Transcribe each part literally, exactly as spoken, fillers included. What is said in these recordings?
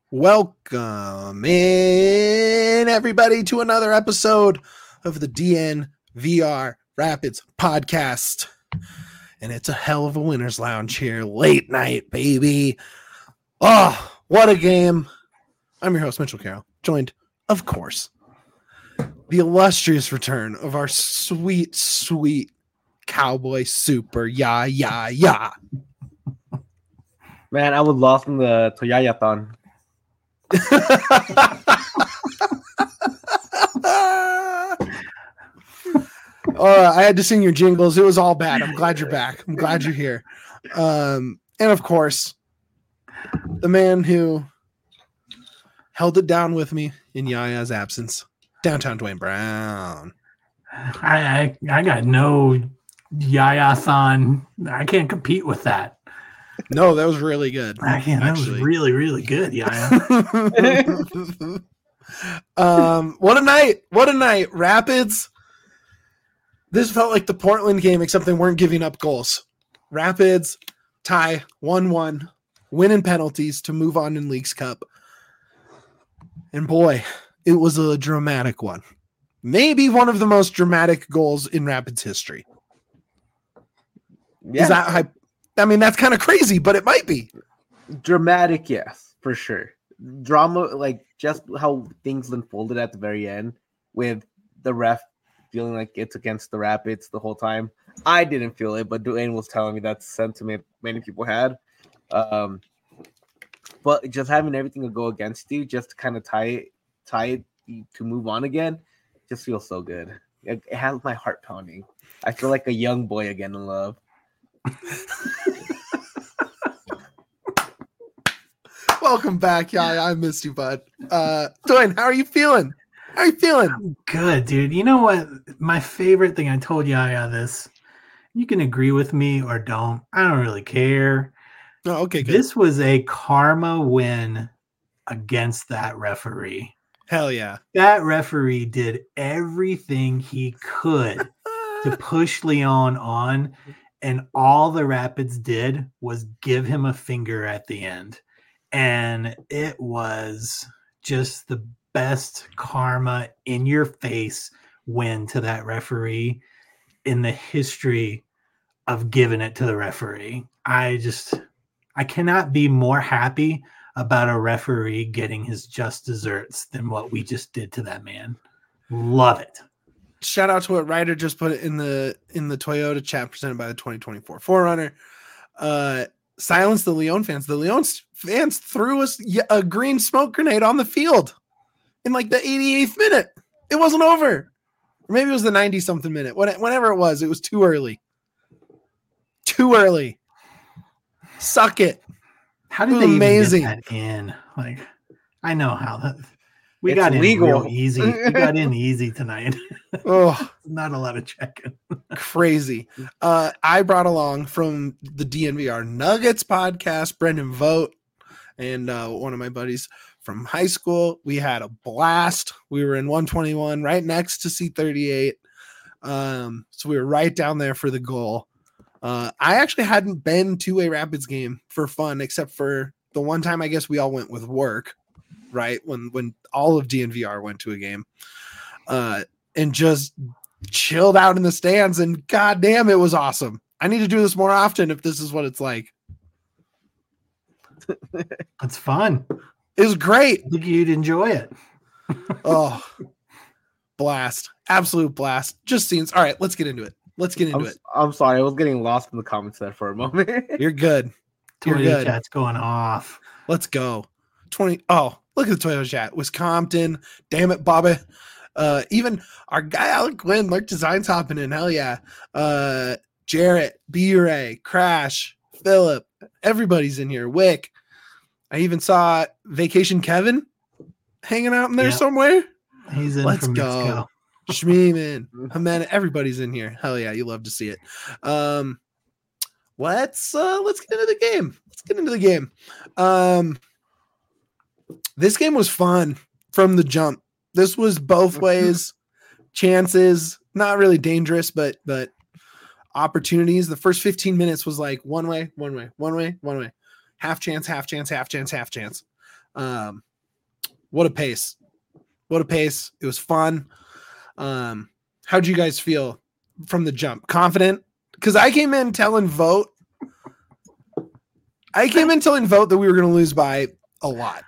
Welcome in, everybody, to another episode of the D N V R Rapids podcast. And it's a hell of a winner's lounge here. Late night, baby. Oh, what a game. I'm your host, Mitchell Carroll, joined, of course, the illustrious return of our sweet, sweet Cowboy Super. Yeah, yeah, yeah. Man, I was lost in the Toyayathon. uh, I had to sing your jingles. It was all bad. I'm glad you're back. I'm glad you're here. Um, and of course, the man who held it down with me in Yaya's absence, downtown Dwayne Brown. I I, I got no Yaya-thon. I can't compete with that. No, that was really good. I can't. That was really, really good, Yaya. um, what a night! What a night! Rapids. This felt like the Portland game, except they weren't giving up goals. Rapids tie one one, win in penalties to move on in Leagues Cup. And boy, it was a dramatic one. Maybe one of the most dramatic goals in Rapids history. Yeah. Is that hype? I mean, that's kind of crazy, but it might be. Dramatic, yes, for sure. Drama, like just how things unfolded at the very end with the ref feeling like it's against the Rapids the whole time. I didn't feel it, but Dwayne was telling me that's sentiment many people had. Um, but just having everything to go against you, just to kind of tie it, tie it to move on again, just feels so good. It, it has my heart pounding. I feel like a young boy again in love. Welcome back, yeah. I missed you, bud. Uh, Dwayne, how are you feeling? How are you feeling? I'm good, dude. You know what? My favorite thing, I told Yaya this. You can agree with me or don't. I don't really care. Oh, okay, good. This was a karma win against that referee. Hell yeah. That referee did everything he could to push Leon on, and all the Rapids did was give him a finger at the end. And it was just the best karma in your face win to that referee in the history of giving it to the referee. I just, I cannot be more happy about a referee getting his just desserts than what we just did to that man. Love it. Shout out to what Ryder just put it in the in the Toyota chat presented by the twenty twenty-four four runner. Uh, silence the Leon fans. The Leon fans threw us a green smoke grenade on the field in like the eighty-eighth minute. It wasn't over. Or maybe it was the ninety-something minute. Whenever it was, it was too early. Too early. Suck it. How did they amazing. even get that in? Like, I know how that. We it's got legal. in real easy. We got in easy tonight. Oh, not a lot of checking. Crazy. Uh, I brought along from the D N V R Nuggets podcast, Brendan Vogt, and uh, one of my buddies from high school. We had a blast. We were in one twenty-one, right next to C thirty-eight. Um, so we were right down there for the goal. Uh, I actually hadn't been to a Rapids game for fun, except for the one time I guess we all went with work. Right when when all of D N V R went to a game, uh, and just chilled out in the stands, and goddamn, it was awesome. I need to do this more often if this is what it's like. It's fun. It was great. I think you'd enjoy it. Oh, blast! Absolute blast. Just scenes. All right, let's get into it. Let's get into I'm, it. I'm sorry, I was getting lost in the comments there for a moment. You're good. You're Toyota good. Chat's going off. Let's go. twenty. Oh. Look at the Toyota chat. Wisconsin. Damn it, Bobby. Uh, even our guy Alec Quinn lurked designs hopping in. Hell yeah. Uh, Jarrett, B-Ray, Crash, Philip. Everybody's in here. Wick. I even saw Vacation Kevin hanging out in there yep. somewhere. He's in Let's from go. Mexico. Schmeeman. Man, everybody's in here. Hell yeah. You love to see it. Um, let's uh, let's get into the game. Let's get into the game. Um, This game was fun from the jump. This was both ways, chances, not really dangerous, but but opportunities. The first fifteen minutes was like one way, one way, one way, one way. Half chance, half chance, half chance, half chance. Um, what a pace. What a pace. It was fun. Um, how'd you guys feel from the jump? Confident? Because I came in telling Vote. I came in telling Vote that we were going to lose by a lot.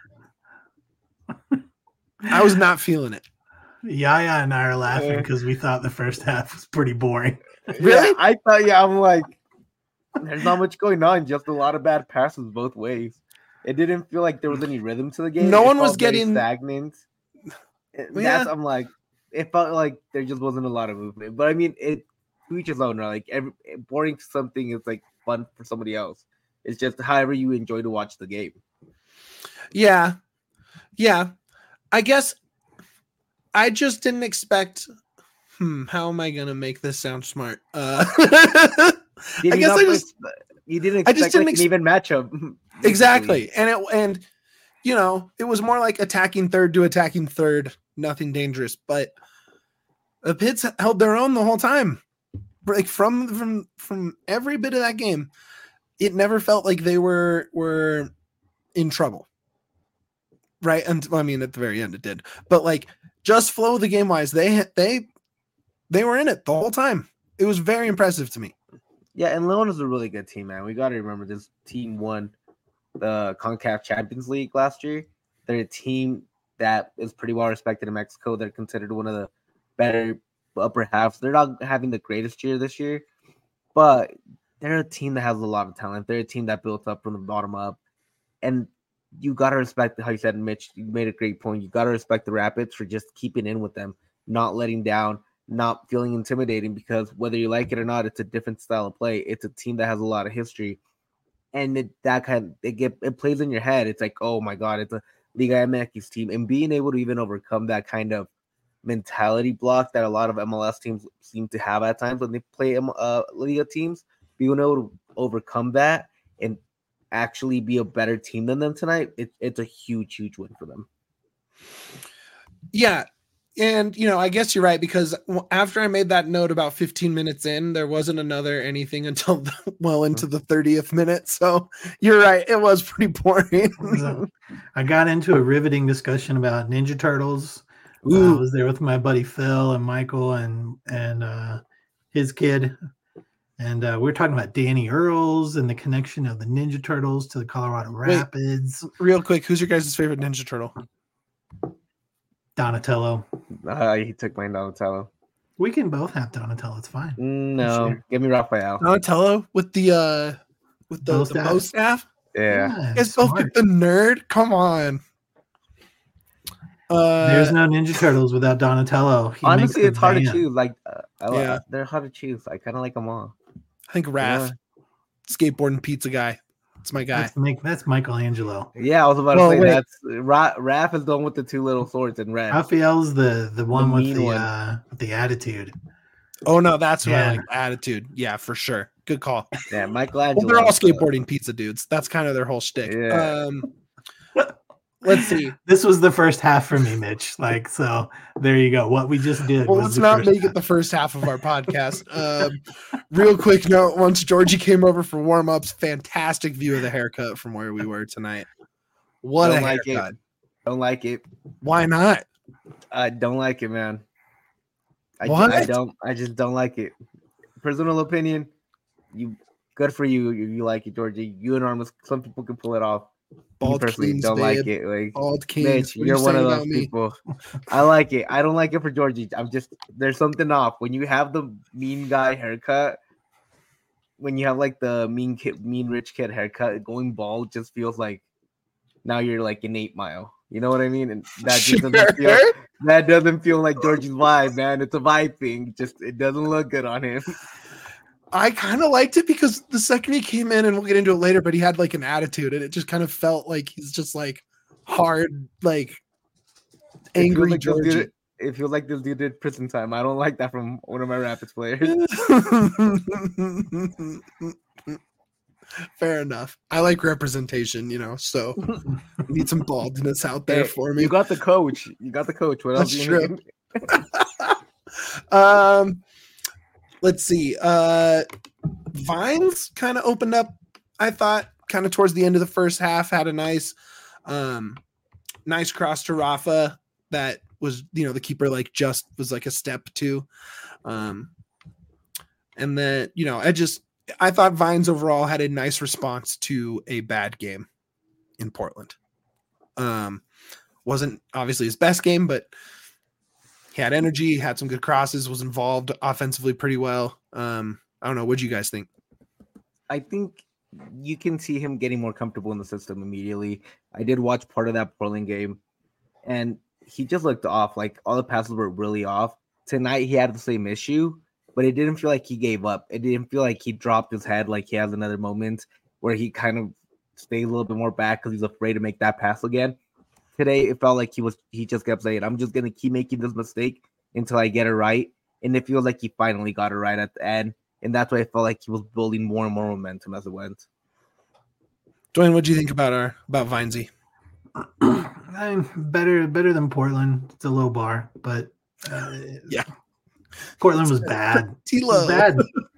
I was not feeling it. Yaya and I are laughing because we thought the first half was pretty boring. Really? Yeah, I thought, yeah, I'm like, there's not much going on, just a lot of bad passes both ways. It didn't feel like there was any rhythm to the game. No it one was felt very getting stagnant. That's Yeah. I'm like, it felt like there just wasn't a lot of movement. But I mean, it to each his own. Right? Like every boring something is like fun for somebody else. It's just however you enjoy to watch the game. Yeah. Yeah. I guess I just didn't expect. Hmm. How am I going to make this sound smart? Uh, Did I you guess not I play- just you didn't I expect just didn't like ex- an even matchup. basically. exactly. And it, and, you know, it was more like attacking third to attacking third, nothing dangerous, but the Pits held their own the whole time. Like from, from, from every bit of that game, it never felt like they were, were in trouble. Right. And I mean, at the very end it did, but like just flow the game wise, they, they, they were in it the whole time. It was very impressive to me. Yeah, and Leon is a really good team, man. We got to remember this team won the CONCACAF Champions League last year. They're a team that is pretty well respected in Mexico. They're considered one of the better upper halves. They're not having the greatest year this year, but they're a team that has a lot of talent. They're a team that built up from the bottom up. And you got to respect, how you said, Mitch, you made a great point. You got to respect the Rapids for just keeping in with them, not letting down, not feeling intimidating, because whether you like it or not, it's a different style of play. It's a team that has a lot of history. And it, that kind of, it, get, it plays in your head. It's like, oh my God, it's a Liga M X team. And being able to even overcome that kind of mentality block that a lot of M L S teams seem to have at times when they play uh, Liga teams, being able to overcome that and actually be a better team than them tonight, it, it's a huge, huge win for them. Yeah. And, you know, I guess you're right, because after I made that note about fifteen minutes in, there wasn't another anything until the, well into the thirtieth minute. So you're right. It was pretty boring. So, I got into a riveting discussion about Ninja Turtles. Uh, I Ooh. was there with my buddy Phil and Michael and and uh, his kid. And uh, we were talking about Danny Earls and the connection of the Ninja Turtles to the Colorado Rapids. Real quick, who's your guys' favorite Ninja Turtle? Donatello. Uh, he took my Donatello. We can both have Donatello. It's fine. No, Sure. give me Raphael. Donatello with the uh with the Bow bow staff? staff. Bow staff? Yeah. You guys both smart. get the nerd. Come on. Uh, There's no Ninja Turtles without Donatello. He makes Honestly, the it's hard band. to choose. Like, uh, I, li- Yeah. they're hard to choose. I kind of like them all. I think Raph, skateboarding pizza guy. It's my guy. That's, make, that's Michelangelo. Yeah, I was about Well, to say wait. that's Ra- Raph is the one with the two little swords in red. Raphael's the the one with mean the one. uh, with the attitude. Oh no, that's what I Yeah. like. Attitude. Yeah, for sure. Good call. Yeah, Well, Michelangelo. they're all uh, skateboarding pizza dudes. That's kind of their whole shtick. Yeah. Um, let's see. This was the first half for me, Mitch. Like, so there you go. What we just did. Well, was let's the not first make half. it the first half of our podcast. Um, real quick note: once Georgie came over for warm ups, fantastic view of the haircut from where we were tonight. What Don't a like it. haircut! Don't like it. Why not? I don't like it, man. I, ju- What? I don't. I just don't like it. Personal opinion. You good for you. You, you like it, Georgie. You and Armus. Some people can pull it off. Me Bald personally Kings, don't babe. like it. Like Bald Kings. Mitch, What are you're you one of saying those about me? people. I like it. I don't like it for Georgie. I'm just there's something off when you have the mean guy haircut. When you have like the mean kid, mean rich kid haircut, going bald just feels like now you're like an eight mile. You know what I mean? And that just doesn't feel Sure. that doesn't feel like Georgie's vibe, man. It's a vibe thing. Just it doesn't look good on him. I kind of liked it because the second he came in, and we'll get into it later, but he had like an attitude, and it just kind of felt like he's just like hard, like It feels angry like this dude- Georgie. It feels like this dude did prison time. I don't like that from one of my Rapids players. Fair enough. I like representation, you know, so need some baldness out there Hey, for me. You got the coach. You got the coach. What else? That's do you true. need? um, let's see. Uh, Vines kind of opened up. I thought kind of towards the end of the first half had a nice, um, nice cross to Rafa that was, you know, the keeper like just was like a step to. Um, and then, you know, I just, I thought Vines overall had a nice response to a bad game in Portland. Um, wasn't obviously his best game, but he had energy, had some good crosses, was involved offensively pretty well. Um, I don't know. What do you guys think? I think you can see him getting more comfortable in the system immediately. I did watch part of that Portland game, and he just looked off. Like, all the passes were really off. Tonight, he had the same issue, but it didn't feel like he gave up. It didn't feel like he dropped his head like he has another moment where he kind of stayed a little bit more back because he's afraid to make that pass again. Today, it felt like he was he just kept saying, I'm just going to keep making this mistake until I get it right. And it feels like he finally got it right at the end. And that's why I felt like he was building more and more momentum as it went. Dwayne, what do you think about our about Vinesy? I'm better better than Portland. It's a low bar, but uh, yeah, Portland was bad. T low bad.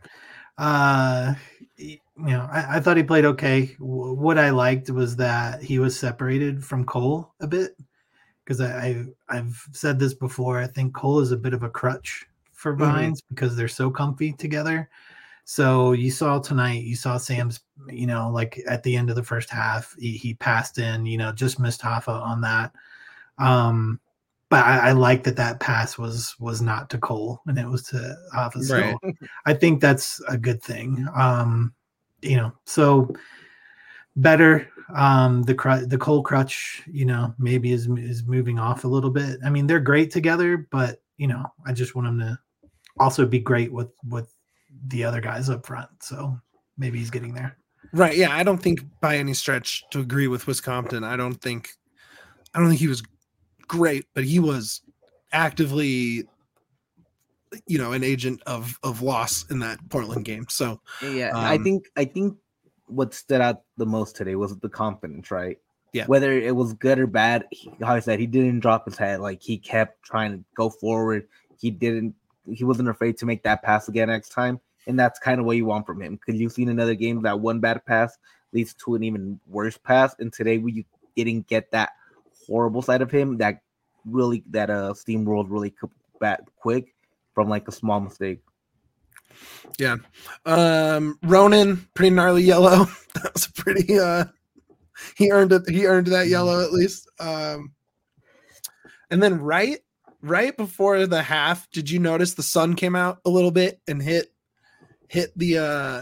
Uh, you know, I, I thought he played okay. W- what I liked was that he was separated from Cole a bit, because I, I I've said this before. I think Cole is a bit of a crutch for Vines mm-hmm. because they're so comfy together. So you saw tonight, you saw Sam's, you know, like at the end of the first half, he, he passed in, you know, just missed Hoffa on that. Um, but I, I like that that pass was was not to Cole and it was to Hoffa. So right. I think that's a good thing. Um, you know, so better. Um, the cr- the Cole crutch, you know, maybe is is moving off a little bit. I mean, they're great together, but you know, I just want him to also be great with with the other guys up front. So maybe he's getting there. Right. Yeah. I don't think by any stretch to agree with Wisconsin. I don't think, I don't think he was great, but he was actively, you know, an agent of, of loss in that Portland game. So yeah, um, I think, I think what stood out the most today was the confidence, right? Yeah. Whether it was good or bad, he, how I said, he didn't drop his head. Like, he kept trying to go forward. He didn't, he wasn't afraid to make that pass again next time. And that's kind of what you want from him. Because you've seen another game that one bad pass leads to an even worse pass. And today we didn't get that horrible side of him that really, that uh, steamrolled really back quick from like a small mistake. Yeah. Um, Ronan, pretty gnarly yellow. That was pretty, uh, he earned it. He earned that yellow at least. Um, and then right, right before the half, did you notice the sun came out a little bit and hit hit the uh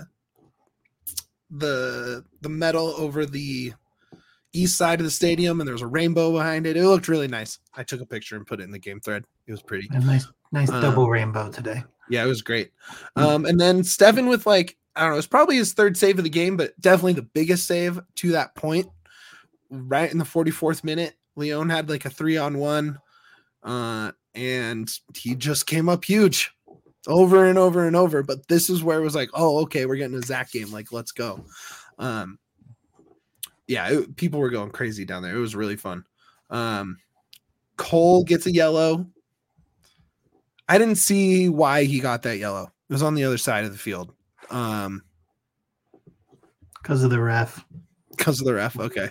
the the metal over the east side of the stadium, and there was a rainbow behind it. It looked really nice. I took a picture and put it in the game thread. It was pretty. A nice nice um, double rainbow today. Yeah, it was great. Um and then Stefan with like, I don't know, it's probably his third save of the game, but definitely the biggest save to that point. Right in the forty-fourth minute, Leon had like a three on one, uh and he just came up huge. Over and over and over, but this is where it was like, oh, okay, we're getting a Zach game. Like, let's go. Um, yeah, it, people were going crazy down there. It was really fun. Um, Cole gets a yellow. I didn't see why he got that yellow. It was on the other side of the field. Um, because of the ref. Because of the ref. Okay.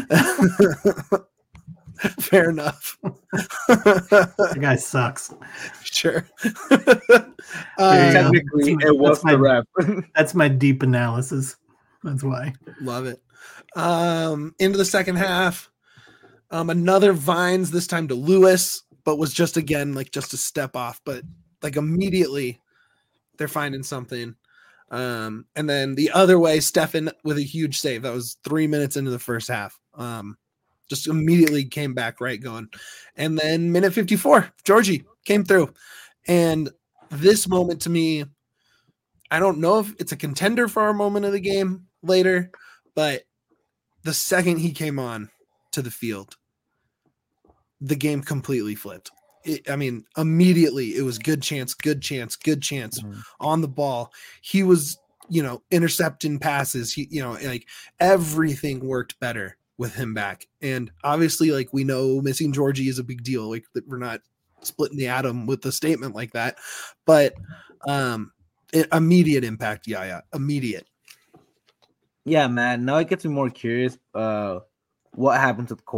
Fair enough. The guy sucks. Sure. uh, Technically, it was the ref. That's my deep analysis. That's why. Love it. Um, into the second half, um, another Vines, this time to Lewis, but was just again like just a step off. But like immediately, they're finding something. Um, and then the other way, Stefan with a huge save. That was three minutes into the first half. Um, just immediately came back right going. And then minute fifty-four, Georgie came through. And this moment to me, I don't know if it's a contender for our moment of the game later, but the second he came on to the field, the game completely flipped. It, I mean, immediately it was good chance, good chance, good chance mm-hmm. on the ball. He was, you know, intercepting passes. He, you know, like everything worked better with him back. And obviously, like, we know missing Georgie is a big deal. Like, that we're not splitting the atom with a statement like that, but um it, immediate impact. Yeah, yeah, immediate. Yeah, man. Now it gets me more curious. Uh, what happened to Cole?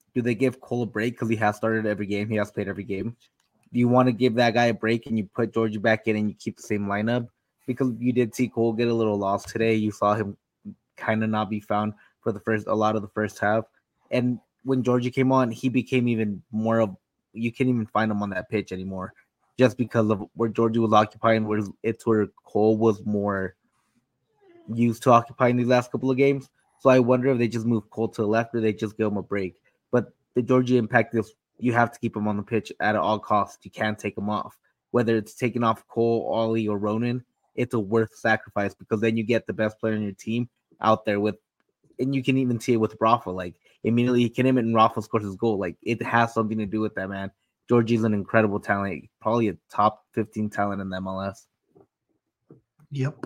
do they give Cole a break because he has started every game? He has played every game. Do you want to give that guy a break and you put Georgie back in and you keep the same lineup? Because you did see Cole get a little lost today. You saw him kind of not be found for the first a lot of the first half. And when Georgie came on, he became even more of you can't even find him on that pitch anymore, just because of where Georgie was occupying. Where it's where Cole was more used to occupying these last couple of games. So I wonder if they just move Cole to the left or they just give him a break. But the Georgie impact is you have to keep him on the pitch at all costs. You can't take him off. Whether it's taking off Cole, Ollie, or Ronan, it's a worth sacrifice because then you get the best player in your team out there with, and you can even see it with Rafa. Like immediately he can him and Rafa scores his goal. Like it has something to do with that, man. Georgie's an incredible talent, probably a top fifteen talent in the M L S. Yep.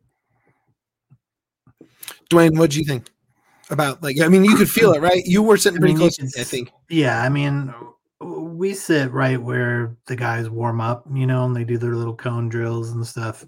Dwayne, what do you think about, like, I mean, you could feel it, right? You were sitting pretty I mean, close, it's- I think. Yeah, I mean, we sit right where the guys warm up, you know, and they do their little cone drills and stuff.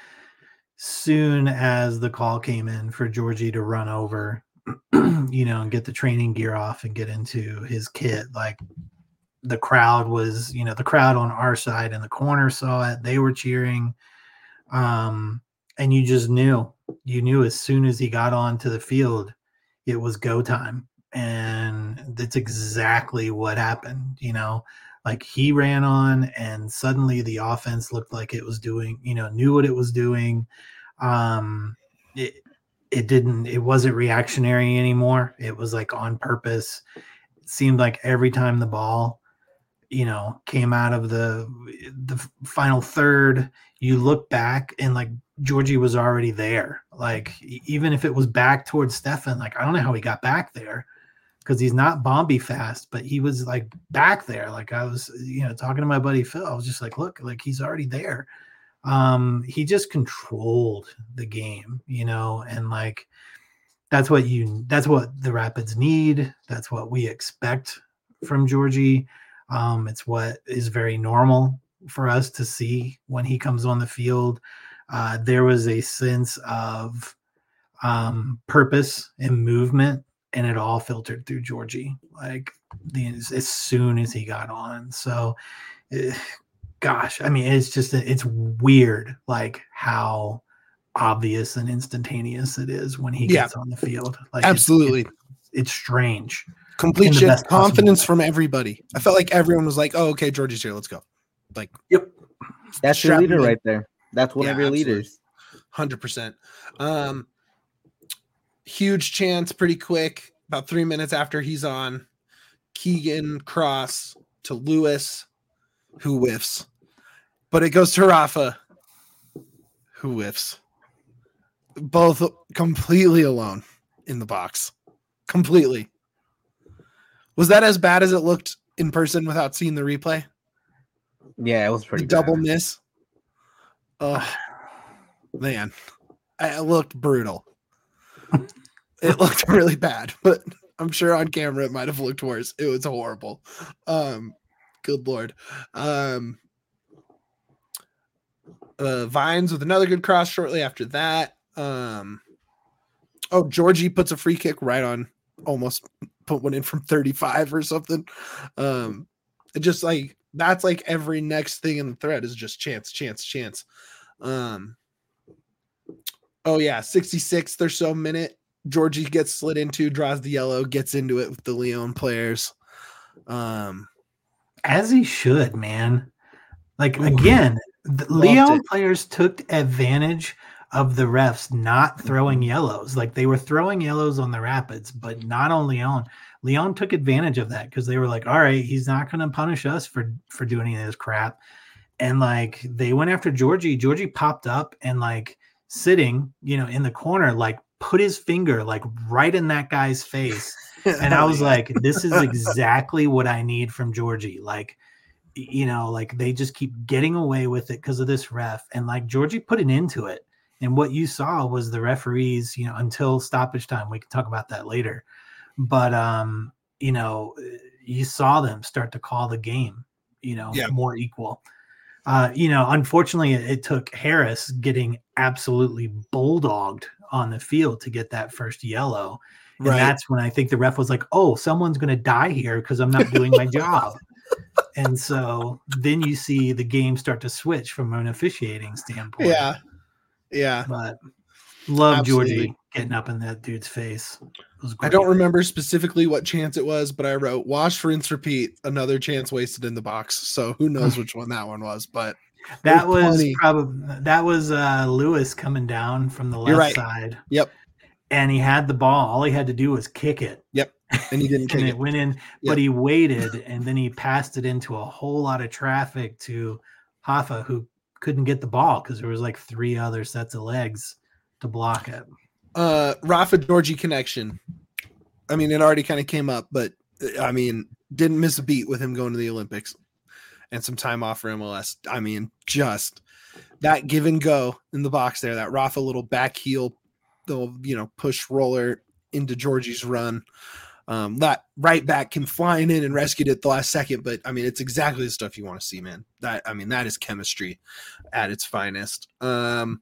Soon as the call came in for Georgie to run over, you know, and get the training gear off and get into his kit, like the crowd was, you know, the crowd on our side in the corner saw it. They were cheering. Um, and you just knew, you knew as soon as he got onto the field, it was go time. And that's exactly what happened, you know, like he ran on and suddenly the offense looked like it was doing, you know, knew what it was doing. Um, it, it didn't, it wasn't reactionary anymore. It was like on purpose. It seemed like every time the ball, you know, came out of the, the final third, you look back and like Georgie was already there. Like, even if it was back towards Stefan, like, I don't know how he got back there, because he's not Bombi fast, but he was like back there. Like I was, you know, talking to my buddy Phil, I was just like, look, like he's already there. Um, he just controlled the game, you know, and like that's what you that's what the Rapids need. That's what we expect from Georgie. Um, it's what is very normal for us to see when he comes on the field. Uh, there was a sense of um, purpose and movement, and it all filtered through Georgie, like the, as soon as he got on. So, eh, gosh, I mean, it's just, it's weird, like how obvious and instantaneous it is when he Yeah. gets on the field. Like Absolutely. It's, it's, it's strange. Complete in the shift, best possible confidence way. from everybody. I felt like everyone was like, oh, okay, Georgie's here. Let's go. Like, Yep. That's your strap leader him in. right there. That's one Yeah, of your absolutely. leaders. one hundred percent. Um, huge chance pretty quick. About three minutes after he's on, Keegan cross to Lewis, who whiffs. But it goes to Rafa, who whiffs. Both completely alone in the box. Completely. Was that as bad as it looked in person without seeing the replay? Yeah, it was pretty The double bad. miss. Oh, man. It looked brutal. It looked really bad, but I'm sure on camera it might have looked worse. It was horrible. Um, good Lord. Um, uh, Vines with another good cross shortly after that. Um, oh, Georgie puts a free kick right on, almost put one in from thirty-five or something. Um, it just like, that's like every next thing in the thread is just chance, chance, chance. Um, oh yeah, sixty-sixth or so minute, Georgie gets slid into, draws the yellow, gets into it with the Leon players. Um, As he should, man. Like, Ooh. again, the Leon it. players took advantage of the refs not throwing yellows. Like, they were throwing yellows on the Rapids, but not on Leon. Leon took advantage of that because they were like, all right, he's not going to punish us for, for doing any of this crap. And, like, they went after Georgie. Georgie popped up and, like, sitting, you know, in the corner, like, put his finger, like, right in that guy's face. And I was like, this is exactly what I need from Georgie. Like, you know, like they just keep getting away with it because of this ref. And like Georgie put an end to it. And what you saw was the referees, you know, until stoppage time. We can talk about that later. But, um, you know, you saw them start to call the game, you know, Yeah. more equal. Uh, you know, unfortunately, it, it took Harris getting absolutely bulldogged on the field to get that first yellow. And Right. that's when I think the ref was like, oh, someone's going to die here because I'm not doing my job. And so then you see the game start to switch from an officiating standpoint. Yeah. Yeah. But love Absolutely. Georgie getting up in that dude's face. It was I great. don't remember specifically what chance it was, but I wrote wash, rinse, repeat, another chance wasted in the box. So who knows which one that one was, but That was plenty. probably that was uh, Lewis coming down from the You're left right. side. Yep. And he had the ball. All he had to do was kick it. Yep. And he didn't and kick it, it. went in, Yep. but he waited and then he passed it into a whole lot of traffic to Hoffa, who couldn't get the ball because there was like three other sets of legs to block it. Uh, Rafa Georgie connection. I mean, it already kind of came up, but I mean, didn't miss a beat with him going to the Olympics and some time off for M L S. I mean, just that give and go in the box there, that Rafa little back heel, the, you know, push roller into Georgie's run. Um, that right back came flying in and rescued it at the last second. But I mean, it's exactly the stuff you want to see, man. That, I mean, that is chemistry at its finest. Um,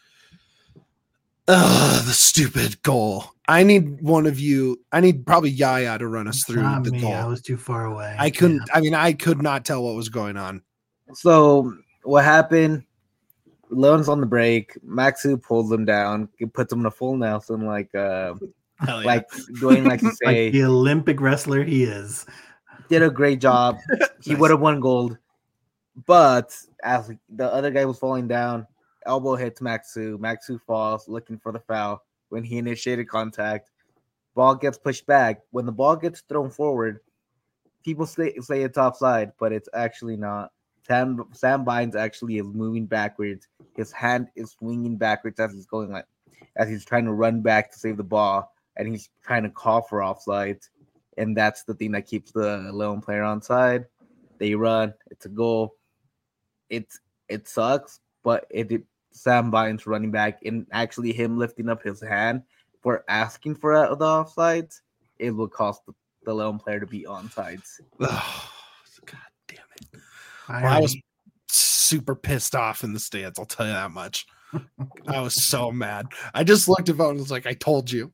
Ugh, the stupid goal. I need one of you. I need probably Yaya to run us It's through not the me. goal. I was too far away. I couldn't. Yeah. I mean, I could not tell what was going on. So what happened? Leon's on the break. Maxu pulls him down. He puts him in a full Nelson, like uh, Hell yeah. like Dwayne likes to say. Like the Olympic wrestler he is. Did a great job. He Nice. would have won gold, but as the other guy was falling down, elbow hits Maxu. Maxu falls, looking for the foul. When he initiated contact, ball gets pushed back. When the ball gets thrown forward, people say, say it's offside, but it's actually not. Sam Sam Bynes actually is moving backwards. His hand is swinging backwards as he's going, like as he's trying to run back to save the ball, and he's trying to call for offside. And that's the thing that keeps the Leon player on side. They run, it's a goal. It's it sucks, but it, it Sam Bynes running back and actually him lifting up his hand for asking for uh, the offsides, it will cost the, the Leon player to be onside. Oh, God damn it. I, Well, I was super pissed off in the stands. I'll tell you that much. I was so mad. I just looked at phone and was like, I told you.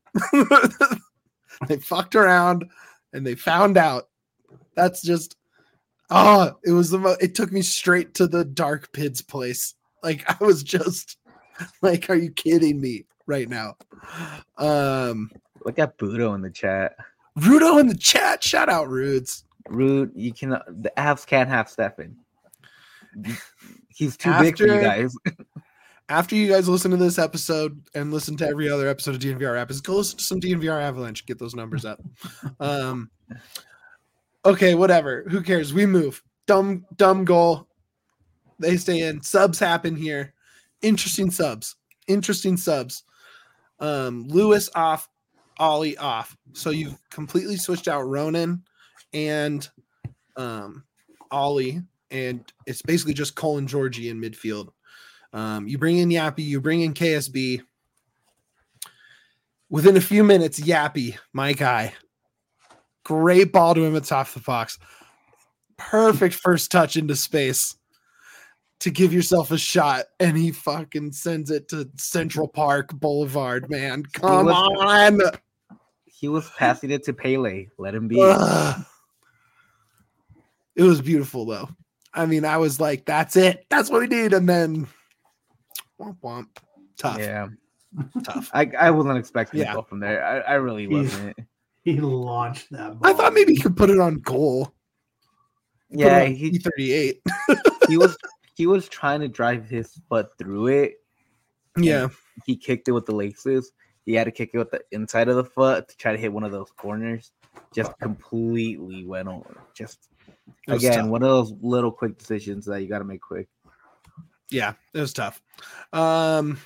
They fucked around and they found out. That's just, oh, it was the mo- it took me straight to the Dark Pids place. Like, I was just like, are you kidding me right now? Um, Look at Budo in the chat. Rudo in the chat. Shout out Rudes. Rude, you can the Avs can't have Stefan. He's too big for you After- guys. After you guys listen to this episode and listen to every other episode of D N V R Rapids, go listen to some D N V R Avalanche. Get those numbers up. Um, okay, whatever. Who cares? We move. Dumb, dumb goal. They stay in. Subs happen here. Interesting subs. Interesting subs. Um, Lewis off, Ollie off. So you've completely switched out Ronan and um, Ollie, and it's basically just Cole and Georgie in midfield. Um, you bring in Yappy, you bring in K S B. Within a few minutes, Yappy, my guy, great ball to him at top of the box. Perfect first touch into space to give yourself a shot, and he fucking sends it to Central Park Boulevard, man. Come was- on. He was passing it to Pele. Let him be. Ugh. It was beautiful, though. I mean, I was like, that's it. That's what we need. And then, womp womp. Tough. Yeah, Tough. I, I wasn't expecting Yeah. to go from there. I, I really He's- wasn't. He launched that ball. I thought maybe he could put it on goal. Put it Yeah, on he E thirty-eight. he was he was trying to drive his foot through it. Yeah. He kicked it with the laces. He had to kick it with the inside of the foot to try to hit one of those corners. Just completely went over. Just It was again, tough. one of those little quick decisions that you got to make quick. Yeah, it was tough. Um,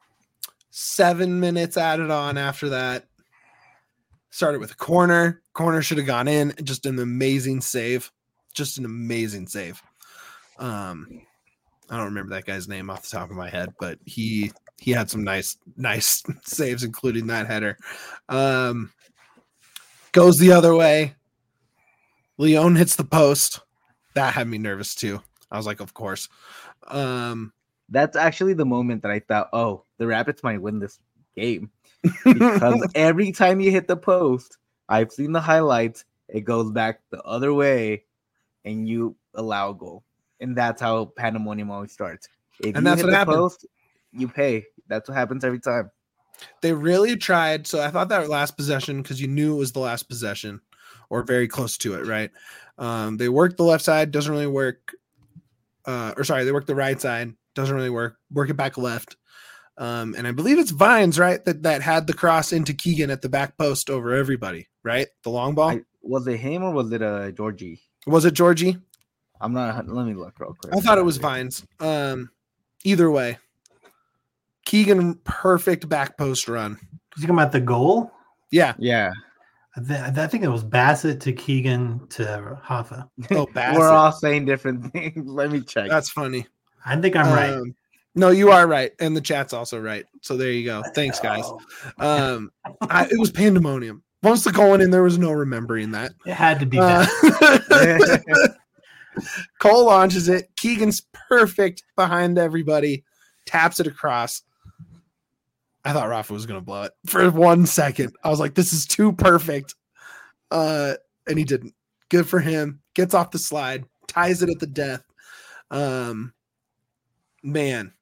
seven minutes added on after that. Started with a corner. Corner should have gone in. Just an amazing save. Just an amazing save. Um, I don't remember that guy's name off the top of my head, but he he had some nice nice saves, including that header. Um, goes the other way. Leon hits the post. That had me nervous too. I was like, of course. Um, That's actually the moment that I thought, oh, the Rapids might win this game because every time you hit the post, I've seen the highlights, it goes back the other way and you allow a goal. And that's how pandemonium always starts. If And you that's hit what the happened. post, you pay. That's what happens every time. They really tried. So I thought that last possession, because you knew it was the last possession or very close to it, right? Um, they worked the left side, doesn't really work. Uh, or sorry, they worked the right side, doesn't really work. Work it back left. Um, and I believe it's Vines, right? That that had the cross into Keegan at the back post over everybody, right? The long ball. I, was it him or was it uh, Georgie? Was it Georgie? I'm not. Let me look real quick. I thought it was Vines. Um, either way, Keegan perfect back post run. You talking about the goal? Yeah. Yeah. I, th- I think it was Bassett to Keegan to Hoffa. Oh, Bassett. We're all saying different things. Let me check. That's funny. I think I'm right. Um, no, you are right, and the chat's also right. So there you go. Thanks, guys. Um, I, it was pandemonium. Once the goal went in, there was no remembering that. It had to be Uh, that. Cole launches it. Keegan's perfect behind everybody. Taps it across. I thought Rafa was going to blow it for one second. I was like, this is too perfect. Uh, and he didn't. Good for him. Gets off the slide. Ties it at the death. Um, man.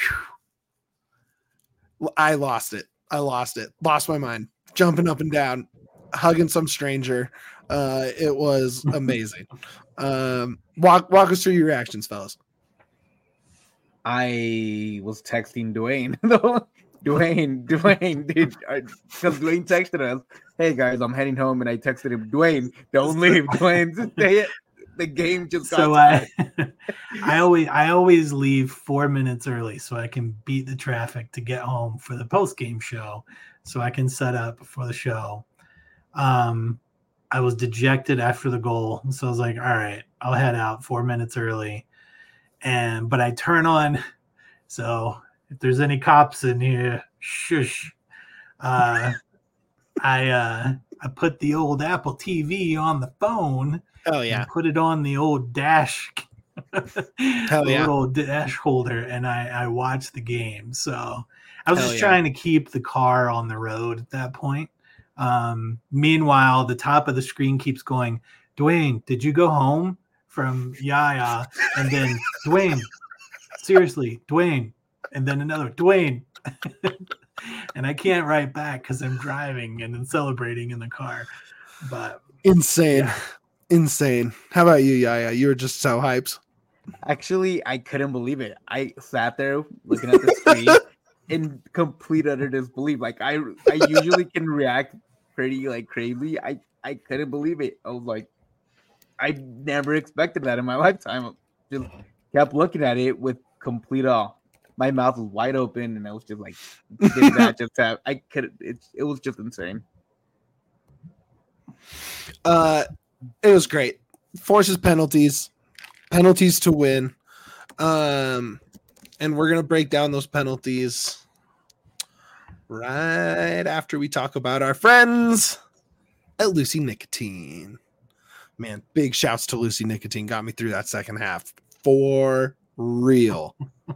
Whew. I lost it. I lost it. Lost my mind. Jumping up and down. Hugging some stranger. Uh, it was amazing. um, walk, walk us through your reactions, fellas. I was texting Dwayne. Dwayne, Dwayne, dude, because Dwayne texted us, "Hey guys, I'm heading home," and I texted him, "Dwayne, don't leave, Dwayne, just stay it. The game just got So I, I always, I always leave four minutes early so I can beat the traffic to get home for the post game show, so I can set up for the show. Um, I was dejected after the goal, so I was like, "All right, I'll head out four minutes early," and but I turn on, so. If there's any cops in here, shush. Uh, I uh, I put the old Apple T V on the phone. Oh yeah. And put it on the old dash, Hell yeah. little dash holder, and I I watched the game. So I was Hell just yeah. trying to keep the car on the road at that point. Um, meanwhile, the top of the screen keeps going, "Dwayne, did you go home from Yaya?" And then Dwayne, seriously, Dwayne. And then another Dwayne, and I can't write back because I'm driving and then celebrating in the car. But Insane, yeah. insane. How about you, Yaya? You were just so hyped. Actually, I couldn't believe it. I sat there looking at the screen in complete utter disbelief. Like I, I usually can react pretty like crazy. I, I couldn't believe it. I was like, I never expected that in my lifetime. I just kept looking at it with complete awe. My mouth was wide open, and I was just like, "Did that just happen?" I could. It, it was just insane. Uh, it was great. Forces penalties, penalties to win. Um, and we're gonna break down those penalties right after we talk about our friends at Lucy Nicotine. Man, big shouts to Lucy Nicotine. Got me through that second half for real.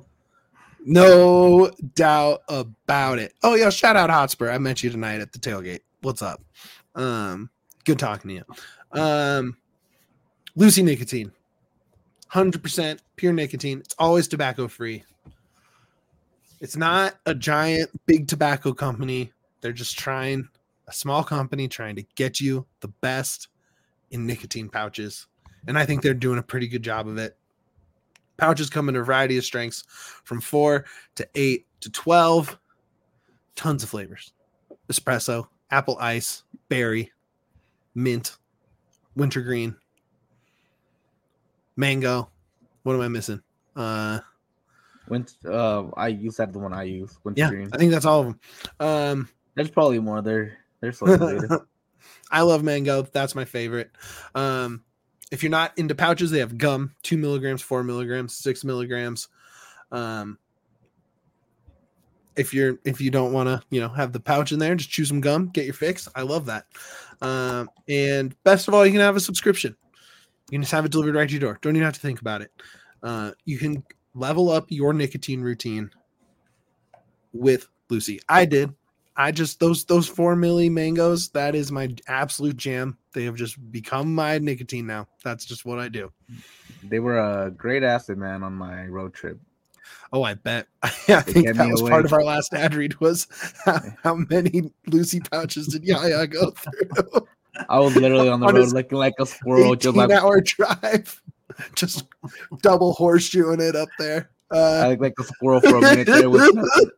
No doubt about it. Oh, yeah, shout out Hotspur. I met you tonight at the tailgate. What's up? Um, good talking to you. Um, Lucy Nicotine. one hundred percent pure nicotine. It's always tobacco free. It's not a giant, big tobacco company. They're just trying, a small company trying to get you the best in nicotine pouches. And I think they're doing a pretty good job of it. Pouches come in a variety of strengths from four to eight to twelve. Tons of flavors. Espresso, apple ice, berry, mint, wintergreen, mango. What am I missing? Uh, When uh, I use that the one I use. yeah, Wintergreen. I think that's all of them. Um, There's probably more there. There's later. I love mango. That's my favorite. Um, if you're not into pouches, they have gum, two milligrams, four milligrams, six milligrams. Um, if you're if you don't want to, you know, have the pouch in there, just chew some gum, get your fix. I love that. Um, and best of all, you can have a subscription. You can just have it delivered right to your door. Don't even have to think about it. Uh, you can level up your nicotine routine with Lucy. I did. I just those those four milli mangoes. That is my absolute jam. They have just become my nicotine now. That's just what I do. They were a great asset, man, on my road trip. Oh, I bet. I think kept that me was awake. part of our last ad read was how, how many Lucy pouches did Yaya go through? I was literally on the On road his looking like a squirrel, just like eighteen-hour drive, just double horseshoeing it up there. Uh, I looked like a squirrel for a minute there with nothing.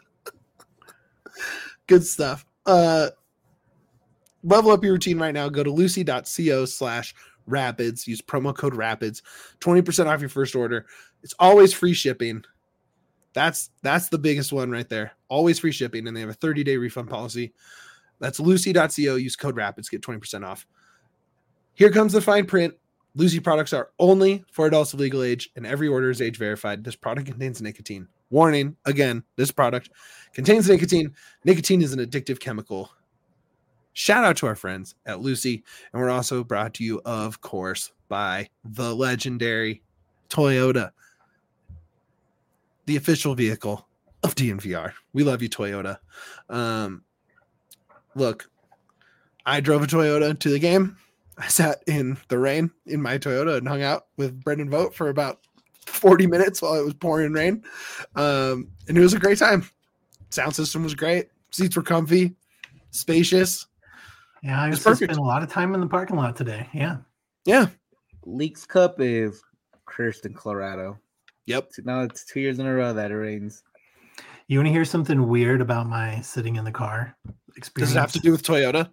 Good stuff. Uh, level up your routine right now. Go to lucy.co slash rapids. Use promo code rapids. twenty percent off your first order. It's always free shipping. That's that's the biggest one right there. Always free shipping, and they have a thirty-day refund policy. That's lucy.co. Use code rapids. Get twenty percent off. Here comes the fine print. Lucy products are only for adults of legal age, and every order is age verified. This product contains nicotine. Warning, again, this product contains nicotine. Nicotine is an addictive chemical. Shout out to our friends at Lucy. And we're also brought to you, of course, by the legendary Toyota, the official vehicle of D N V R. We love you, Toyota. Um, look, I drove a Toyota to the game. I sat in the rain in my Toyota and hung out with Brendan Vogt for about forty minutes while it was pouring rain. Um, and it was a great time. Sound system was great. Seats were comfy, spacious. Yeah, I It's used to perfect. spend a lot of time in the parking lot today. Yeah. Yeah. Leaks Cup is cursed in Colorado. Yep. Now it's two years in a row that it rains. You want to hear something weird about my sitting in the car experience? Does it have to do with Toyota?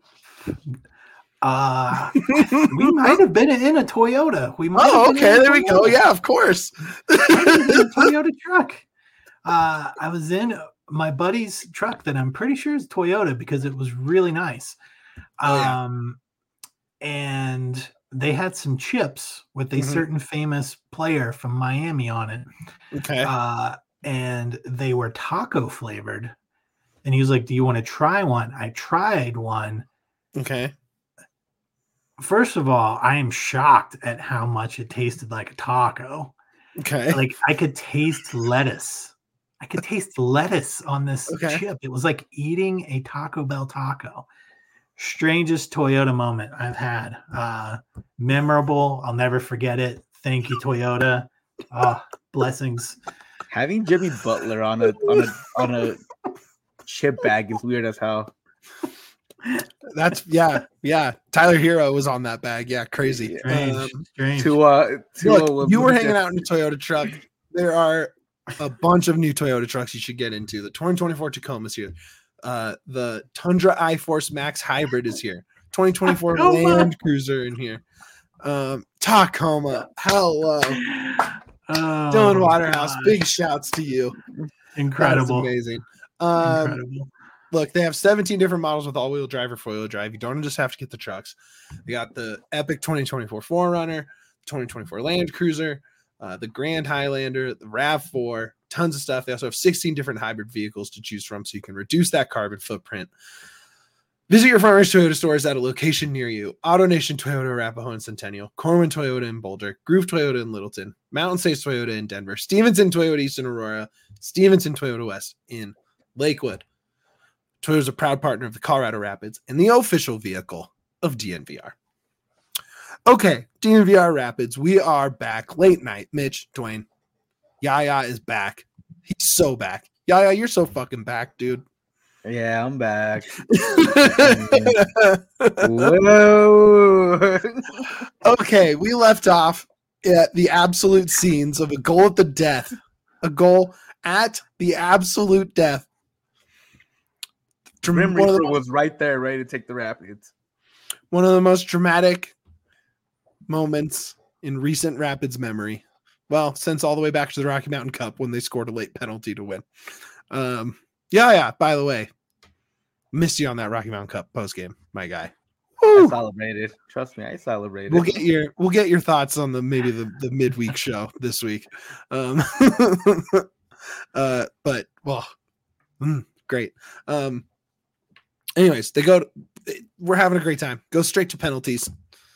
Uh, we might have been in a Toyota. We might Oh, have been okay. in a There we go. Toyota. Yeah, of course. Might have been a Toyota truck. Uh, I was in my buddy's truck that I'm pretty sure is Toyota because it was really nice. Oh, yeah. Um, and they had some chips with a Mhm. certain famous player from Miami on it. Okay. Uh, and they were taco flavored. And he was like, "Do you want to try one?" I tried one. Okay. First of all, I am shocked at how much it tasted like a taco. Okay. Like I could taste lettuce. I could taste lettuce on this Okay. chip. It was like eating a Taco Bell taco. Strangest Toyota moment I've had. Uh, memorable. I'll never forget it. Thank you, Toyota. Oh, blessings. Having Jimmy Butler on a on a on a chip bag is weird as hell. That's yeah, yeah. Tyler Hero was on that bag. Yeah, crazy. Strange. Um, strange. Tua, Tua look, was- you were hanging out in a Toyota truck. There are a bunch of new Toyota trucks you should get into. The twenty twenty-four Tacoma is here. Uh, the Tundra iForce Max Hybrid is here. twenty twenty-four Tacoma. Land Cruiser in here. Um, Tacoma. Hello. Oh, Dylan Waterhouse. gosh. Big shouts to you. That's Incredible. amazing. Um, Incredible. Look, they have seventeen different models with all-wheel drive or four-wheel drive. You don't just have to get the trucks. They got the epic twenty twenty-four four runner, twenty twenty-four Land Cruiser, uh, the Grand Highlander, the RAV four, tons of stuff. They also have sixteen different hybrid vehicles to choose from so you can reduce that carbon footprint. Visit your Farmers Toyota stores at a location near you. AutoNation Toyota Arapahoe and Centennial, Corwin Toyota in Boulder, Groove Toyota in Littleton, Mountain States Toyota in Denver, Stevenson Toyota East in Aurora, Stevenson Toyota West in Lakewood. Toyota is a proud partner of the Colorado Rapids and the official vehicle of D N V R. Okay, D N V R Rapids, we are back. Late night. Mitch, Dwayne, Yaya is back. He's so back. Yaya, you're so fucking back, dude. Yeah, I'm back. Whoa. Okay, we left off at the absolute scenes of a goal at the death. A goal at the absolute death. Grim One of the Reaper was right there, ready to take the Rapids. one of the most dramatic moments in recent Rapids memory. Well, since all the way back to the Rocky Mountain Cup when they scored a late penalty to win. Um, yeah, yeah. By the way, missed you on that Rocky Mountain Cup post game, my guy. I Woo! celebrated. Trust me, I celebrated. We'll get your we'll get your thoughts on the maybe the, the midweek show this week. Um, uh, but well, mm, great. Um, anyways, they go. To, we're having a great time. Go straight to penalties,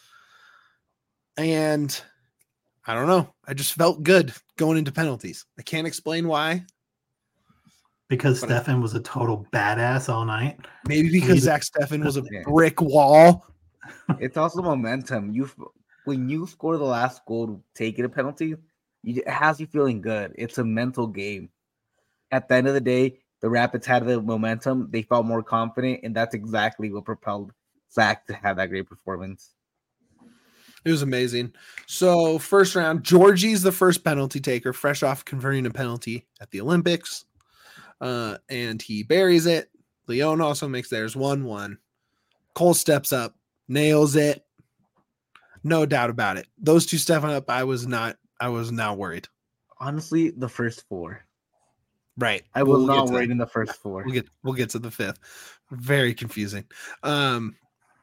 and I don't know. I just felt good going into penalties. I can't explain why. Because But- Stefan was a total badass all night. Maybe because He's- Zach Steffen was a Yeah. brick wall. It's also momentum. You when you score the last goal to take it a penalty, you, it has you feeling good. It's a mental game. At the end of the day, the Rapids had the momentum. They felt more confident, and that's exactly what propelled Zach to have that great performance. It was amazing. So first round, Georgie's the first penalty taker, fresh off converting a penalty at the Olympics. Uh, and he buries it. Leon also makes theirs one one. Cole steps up, nails it. No doubt about it. Those two stepping up, I was not I was not worried. Honestly, the first four. Right. I We'll- was we'll get not to worried that. in the first four. We'll get we'll get to the fifth. Very confusing. Um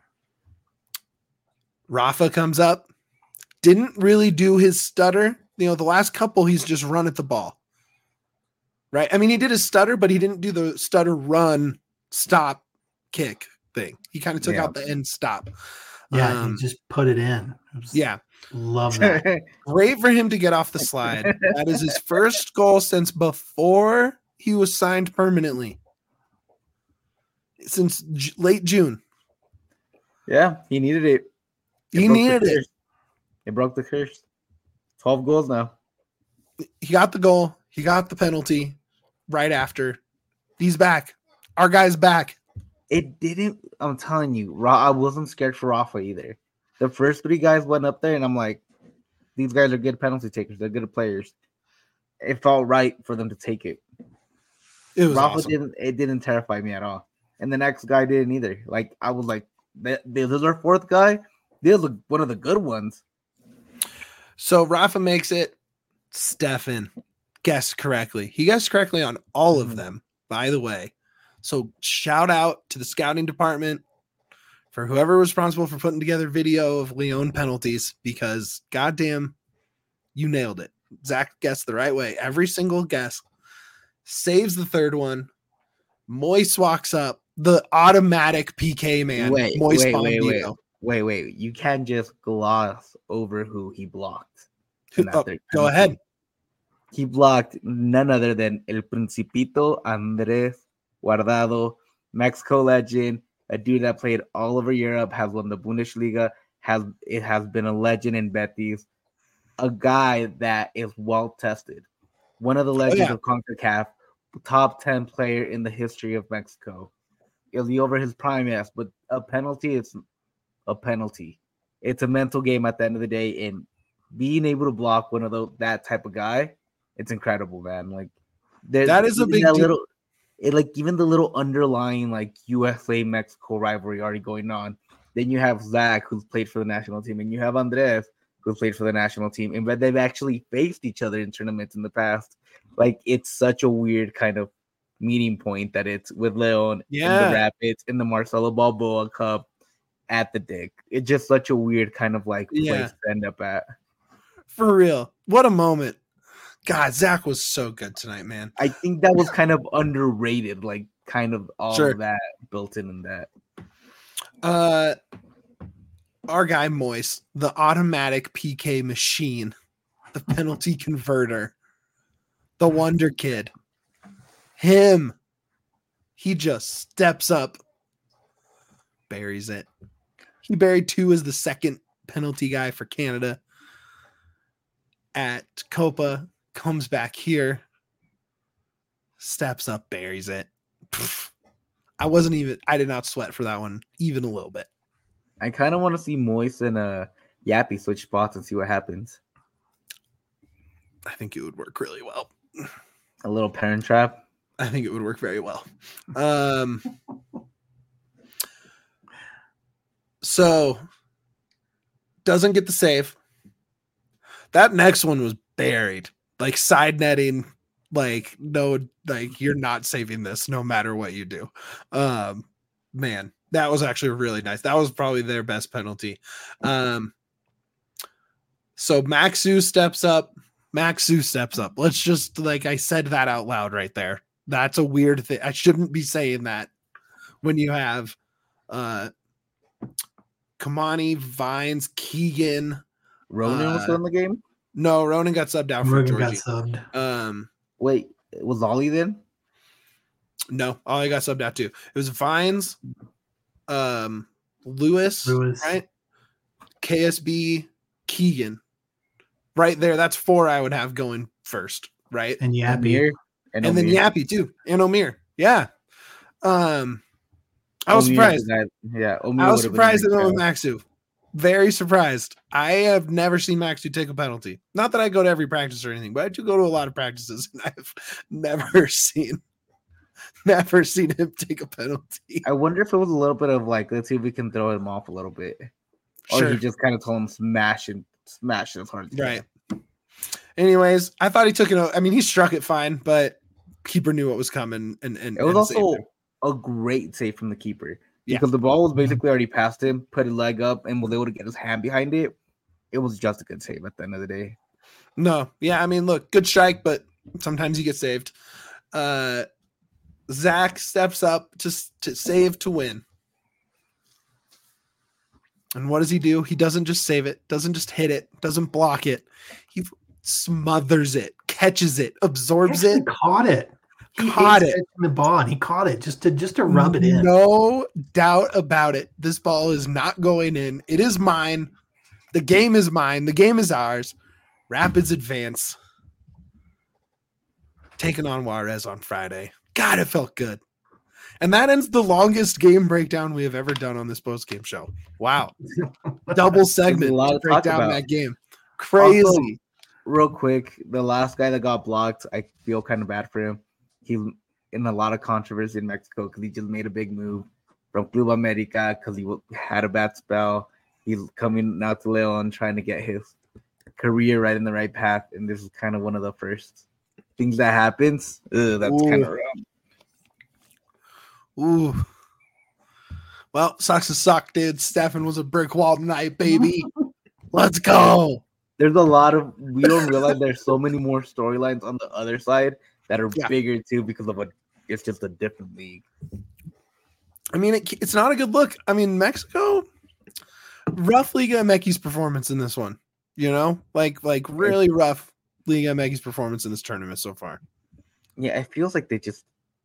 Rafa comes up, didn't really do his stutter. You know, the last couple he's just run at the ball. Right? I mean, he did his stutter, but he didn't do the stutter run stop kick thing. He kind of took Yeah. out the end stop. Yeah, Um, he just put it in. It was- yeah. Love that. Great for him to get off the slide. That is his first goal since before he was signed permanently. Since J- late June. Yeah, he needed it. It He broke the needed it. curse. It broke the curse. twelve goals now. He got the goal. He got the penalty right after. He's back. Our guy's back. It didn't. I'm telling you, Ra- I wasn't scared for Rafa either. The first three guys went up there, and I'm like, these guys are good penalty takers. They're good players. It felt right for them to take it. It was Rafa awesome. didn't. It didn't terrify me at all. And the next guy didn't either. Like I was like, this is our fourth guy. This is one of the good ones. So Rafa makes it. Stefan guessed correctly. He guessed correctly on all of Mhm. them, by the way. So shout out to the scouting department for whoever was responsible for putting together video of Leon penalties, because goddamn, you nailed it. Zach guessed the right way. Every single guess. Saves the third one. Moise walks up. The automatic P K man. Wait, Moise wait, wait, wait. Bombino. Wait, wait. You can't just gloss over who he blocked. Who- in that oh, third go penalty. ahead. He blocked none other than El Principito Andres Guardado, Mexico legend, a dude that played all over Europe, has won the Bundesliga, has it has been a legend in Betis, a guy that is well tested, one of the legends yeah. of CONCACAF, top ten player in the history of Mexico. Is he over his prime? Yes, but a penalty is a penalty. It's a mental game at the end of the day, and being able to block one of those that type of guy, it's incredible, man. Like there- That is a even big that deal. little, it, like even the little underlying like U S A Mexico rivalry already going on. Then you have Zach, who's played for the national team, and you have Andres, who's played for the national team, and but they've actually faced each other in tournaments in the past. Like it's such a weird kind of meeting point that it's with Leon in Yeah. the Rapids in the Marcelo Balboa Cup at the Dick. It's just such a weird kind of like place Yeah. to end up at. For real. What a moment. God, Zach was so good tonight, man. I think that was kind of underrated, like kind of all Sure. of that built in in that. Uh our guy Moise, the automatic P K machine, the penalty converter, the wonder kid. Him. He just steps up, buries it. He buried two as the second penalty guy for Canada at Copa, comes back here, steps up, buries it. Pff, I wasn't even, I did not sweat for that one, even a little bit. I kind of want to see Moise and uh Yappy switch spots and see what happens. I think it would work really well. A little parent trap. I think it would work very well. Um, so doesn't get the save. That next one was buried, like side netting. Like no, like you're not saving this, no matter what you do. Um, man, that was actually really nice. That was probably their best penalty. Um, so Maxu steps up. Maxu steps up. Let's just like I said that out loud right there. That's a weird thing. I shouldn't be saying that when you have uh Kamani, Vines, Keegan. Ronan was Uh, still in the game. No, Ronan got subbed out for Rogan got Georgie. subbed. Um, Wait, was Ollie then? No, all I got subbed out to. It was Vines, um, Lewis, Lewis. right? K S B, Keegan. Right there. That's four I would have going first, right? And Yappy. Amir And, and, then Amir. Yappy too. And Omir. Yeah. Um I was Omir's surprised. the guy- Yeah, Omir I was would've been surprised the they went next with Maxu. Very surprised. I have never seen Maxu take a penalty. Not that I go to every practice or anything, but I do go to a lot of practices, and I've never seen, never seen him take a penalty. guy. I wonder if it was a little bit of like, let's see if we can throw him off a little bit, or Sure. he just kind of told him smash and smash it as hard as he Right. can. Anyways, I thought he took it. o- I mean, he struck it fine, but keeper knew what was coming, and and It was and saved also him. a great save from the keeper Yeah. because the ball was basically already past him, put his leg up, and was able to get his hand behind it. It was just a good save at the end of the day. No, yeah, I mean, look, good strike, but sometimes you get saved. Uh, Zach steps up to s- to save to win. And what does he do? He doesn't just save it, doesn't just hit it, doesn't block it. He smothers it, catches it, absorbs He it. actually caught it. He Caught hates it. catching the ball, and he caught it just to just to rub it in. No doubt about it. This ball is not going in. It is mine. The game is mine. The game is ours. Rapids advance. Taking on Juarez on Friday. God, it felt good. And that ends the longest game breakdown we have ever done on this post-game show. Wow. Double segment a lot to to break talk down about. that game. Crazy. Also, real quick, the last guy that got blocked, I feel kind of bad for him. He in a lot of controversy in Mexico because he just made a big move from Club America because he w- had a bad spell. He's coming now to Leon trying to get his career right in the right path, and this is kind of one of the first things that happens. Ugh, that's kind of Ooh. rough. Ooh. Well, sucks to suck, dude. Stefan was a brick wall tonight, baby. Let's go. There's a lot of we don't realize there's so many more storylines on the other side that are Yeah. bigger too because of what it's just a different league. I mean, it, it's not a good look. I mean, Mexico, rough Liga M X's performance in this one. You know, like like really rough Liga M X's performance in this tournament so far. Yeah, it feels like they just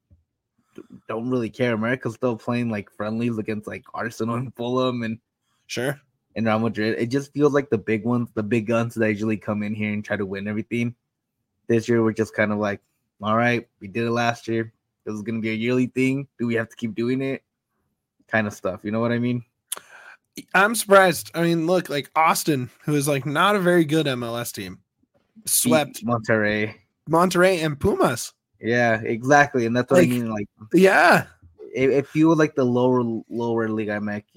don't really care. America's still playing like friendlies against like Arsenal and Fulham and Sure. and Real Madrid. It just feels like the big ones, the big guns that usually come in here and try to win everything. This year, we're just kind of like, all right, we did it last year. This is going to be a yearly thing. Do we have to keep doing it? Kind of stuff. You know what I mean? I'm surprised. I mean, look, like Austin, who is like not a very good M L S team, swept Beat Monterrey. Monterrey and Pumas. Yeah, exactly. And that's what Like- I mean. Like, Yeah. it, it feels like the lower, lower Liga M X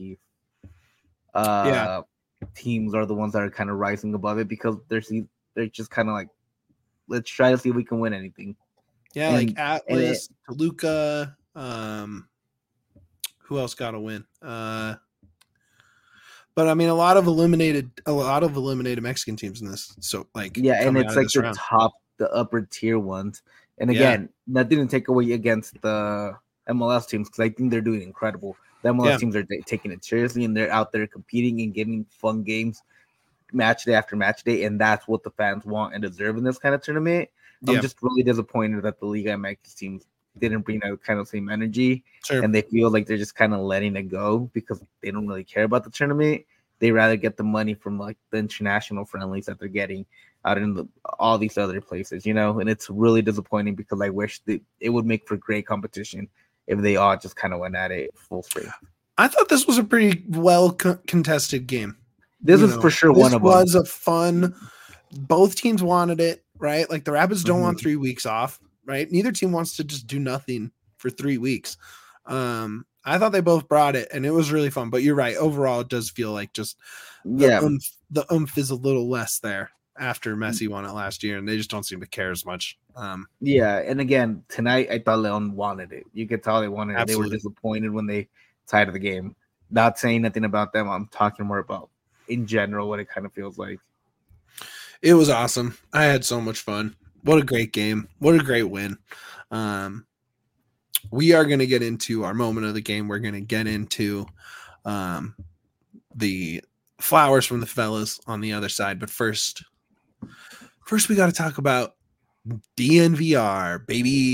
uh, Yeah. teams are the ones that are kind of rising above it because they're, see- they're just kind of like, let's try to see if we can win anything. Yeah, And- like Atlas, Toluca, um, who else got a win? Uh, but I mean, a lot of eliminated, a lot of eliminated Mexican teams in this. So, like, Yeah, and coming it's out of like this the round. top, the upper tier ones. And Yeah. again, that didn't take away against the M L S teams because I think they're doing incredible. The M L S Yeah. teams are ta- taking it seriously and they're out there competing and getting fun games match day after match day. And that's what the fans want and deserve in this kind of tournament. I'm Yeah, just really disappointed that the Liga M X teams didn't bring that kind of same energy sure. and they feel like they're just kind of letting it go because they don't really care about the tournament. They rather get the money from like the international friendlies that they're getting out in the, all these other places, you know. And it's really disappointing because I wish that it would make for great competition if they all just kind of went at it full strength. I thought this was a pretty well co- contested game. This You is know, for sure this one of them. was a fun. Both teams wanted it, right? Like the Rapids don't want Mhm. three weeks off, right? Neither team wants to just do nothing for three weeks. Um, I thought they both brought it, and it was really fun. But you're right. Overall, it does feel like just the Yeah, oomph, the oomph is a little less there after Messi won it last year, and they just don't seem to care as much. Um, yeah. And again, tonight I thought Leon wanted it. You could tell they wanted it. They Absolutely. were disappointed when they tied the game. Not saying nothing about them. I'm talking more about in general what it kind of feels like. it was awesome. I had so much fun. What a great game. What a great win. Um, we are going to get into our moment of the game. We're going to get into um, the flowers from the fellas on the other side. But first, first we got to talk about D N V R, baby.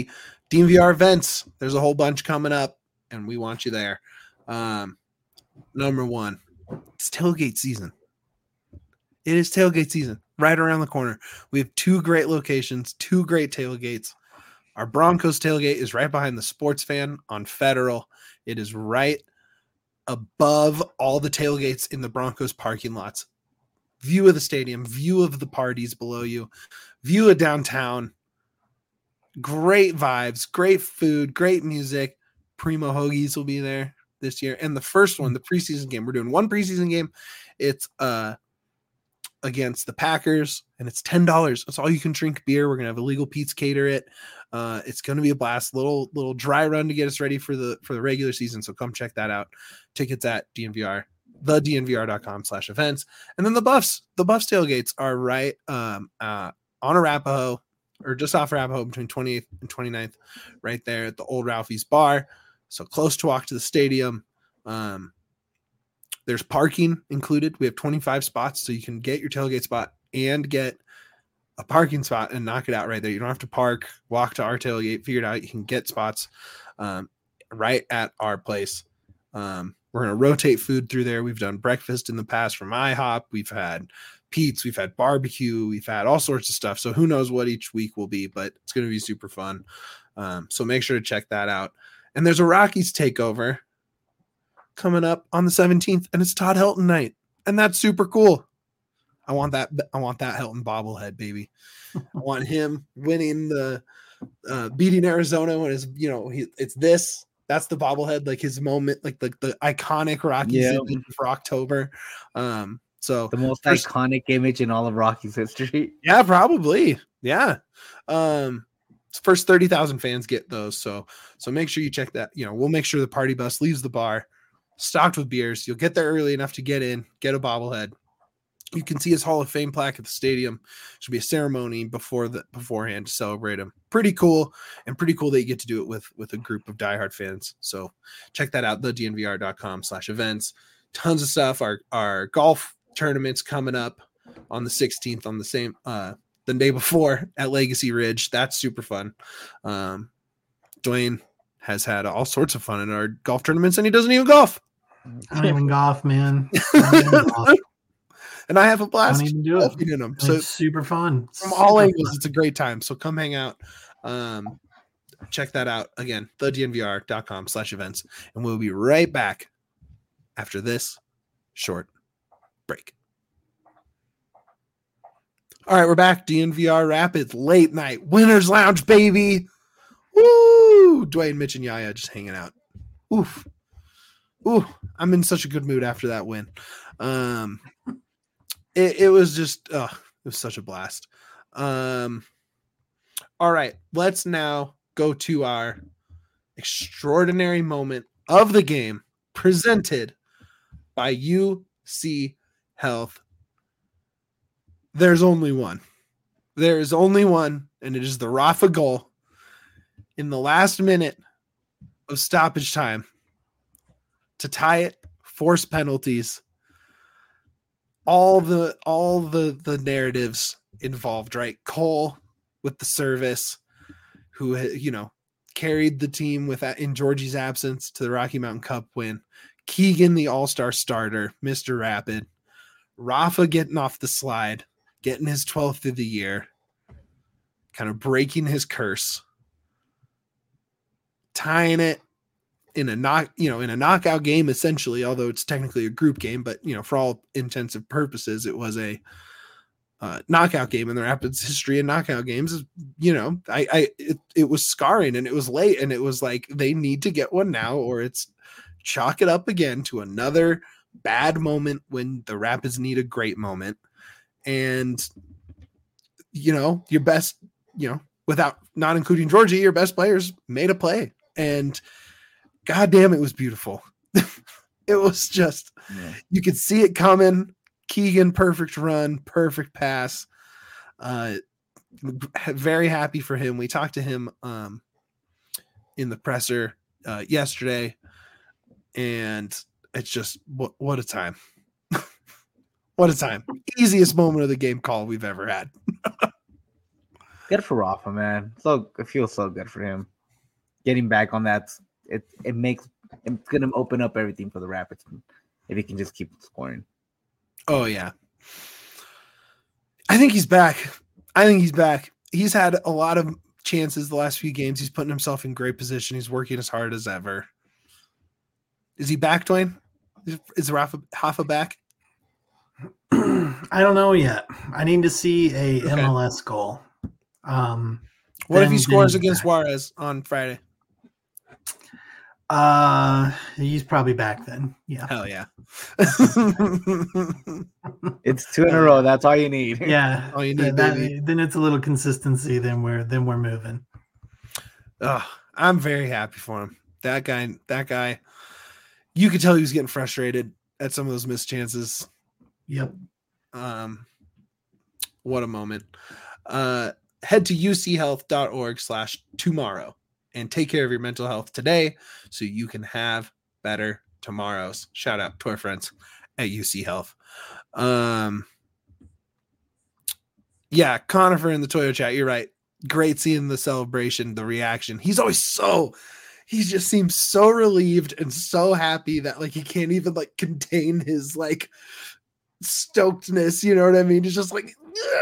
D N V R events. There's a whole bunch coming up, and we want you there. Um, number one, it's tailgate season. It is tailgate season right around the corner. We have two great locations, two great tailgates. Our Broncos tailgate is right behind the Sports Fan on Federal. It is right above all the tailgates in the Broncos parking lots. View of the stadium, view of the parties below you, view of downtown. Great vibes, great food, great music. Primo Hoagies will be there this year. And the first one, the preseason game, we're doing one preseason game. It's uh against the Packers, and it's ten dollars. That's all you can drink beer. We're gonna have illegal Pete's cater it. Uh, it's gonna be a blast. Little little dry run to get us ready for the for the regular season. So come check that out. Tickets at D N V R, the D N V R dot com slash events. And then the Buffs, the Buffs tailgates are right um uh on Arapahoe, or just off Arapahoe between twenty-eighth and twenty-ninth, right there at the old Ralphie's bar. So close to walk to the stadium. Um, There's parking included. We have twenty-five spots, so you can get your tailgate spot and get a parking spot and knock it out right there. You don't have to park, walk to our tailgate, figure it out. You can get spots um, right at our place. Um, we're going to rotate food through there. We've done breakfast in the past from IHOP. We've had Pete's. We've had barbecue. We've had all sorts of stuff. So who knows what each week will be, but it's going to be super fun. Um, so make sure to check that out. And there's a Rockies takeover coming up on the seventeenth, and it's Todd Helton night, and that's super cool. I want that. I want that Helton bobblehead, baby. I want him winning the uh, beating Arizona when it's you know he, it's this. That's the bobblehead, like his moment, like the the iconic Rockies Yeah. image for October. Um, so The most first- iconic image in all of Rockies history. yeah, probably. Yeah. Um, first thirty thousand fans get those. So, so make sure you check that. You know, we'll make sure the party bus leaves the bar stocked with beers. You'll get there early enough to get in, get a bobblehead. You can see his Hall of Fame plaque at the stadium. Should be a ceremony before the beforehand to celebrate him. Pretty cool, and pretty cool that you get to do it with with a group of diehard fans. So check that out, the D N V R dot com slash events. Tons of stuff. Our our golf tournaments coming up on the sixteenth on the same uh the day before at Legacy Ridge. That's super fun. Um, Dwayne has had all sorts of fun in our golf tournaments, and he doesn't even golf. I don't even golf, man. I don't even golf. And I have a I blast don't even do it. golfing in them. So It's super fun. from all Super angles, fun. it's a great time. So come hang out. Um, check that out again, the D N V R dot com slash events. And we'll be right back after this short break. All right, we're back. D N V R Rapids late night winners lounge, baby. Woo! Dwayne, Mitch, and Yaya just hanging out. Oof. Ooh, I'm in such a good mood after that win. Um, it, it was just, uh, it was such a blast. Um, all right, let's now go to our extraordinary moment of the game presented by U C Health. There's only one. There is only one, and it is the Rafa goal in the last minute of stoppage time to tie it, force penalties. All the all the the narratives involved, right? Cole with the service, who you know carried the team with that in Georgie's absence to the Rocky Mountain Cup win. Keegan, the all-star starter, Mister Rapid. Rafa getting off the slide, getting his twelfth of the year, kind of breaking his curse, tying it in a knock, you know, in a knockout game, essentially, although it's technically a group game, but you know, for all intents and purposes, it was a uh, knockout game in the Rapids history of knockout games. You know, I, I, it, it was scarring, and it was late, and it was like, they need to get one now, or it's chalk it up again to another bad moment when the Rapids need a great moment. And, you know, your best, you know, without not including Georgie, your best players made a play, and God damn, it was beautiful. It was just, yeah. You could see it coming. Keegan, perfect run, perfect pass. Uh, very happy for him. We talked to him um, in the presser uh, yesterday, and it's just, what, what a time. What a time. Easiest moment of the game call we've ever had. Good for Rafa, man. So it feels so good for him. getting back on that, it it makes it's gonna open up everything for the Rapids if he can just keep scoring. Oh yeah, I think he's back. I think he's back. He's had a lot of chances the last few games. He's putting himself in great position. He's working as hard as ever. Is he back, Dwayne? Is, is Rafa Hoffa back? I don't know yet. I need to see a Okay. M L S goal. Um, What if then- he scores then he's against back. Juarez on Friday? Uh, he's probably back then. Yeah. Hell yeah. It's two in a row. That's all you need. Yeah. All you Th- need, that- baby. then it's a little consistency. Then we're then we're moving. Oh, I'm very happy for him. That guy, that guy, you could tell he was getting frustrated at some of those missed chances. Yep. Um, what a moment. Uh, head to uchealth.org slash tomorrow and take care of your mental health today so you can have better tomorrows. Shout out to our friends at U C Health. Um, yeah, Conifer in the Toyo chat, you're right. Great seeing the celebration, the reaction. He's always so, he just seems so relieved and so happy that like he can't even like contain his like stokedness. You know what I mean? He's just like,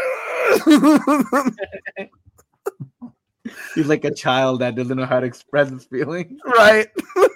He's like a child that doesn't know how to express his feelings. right.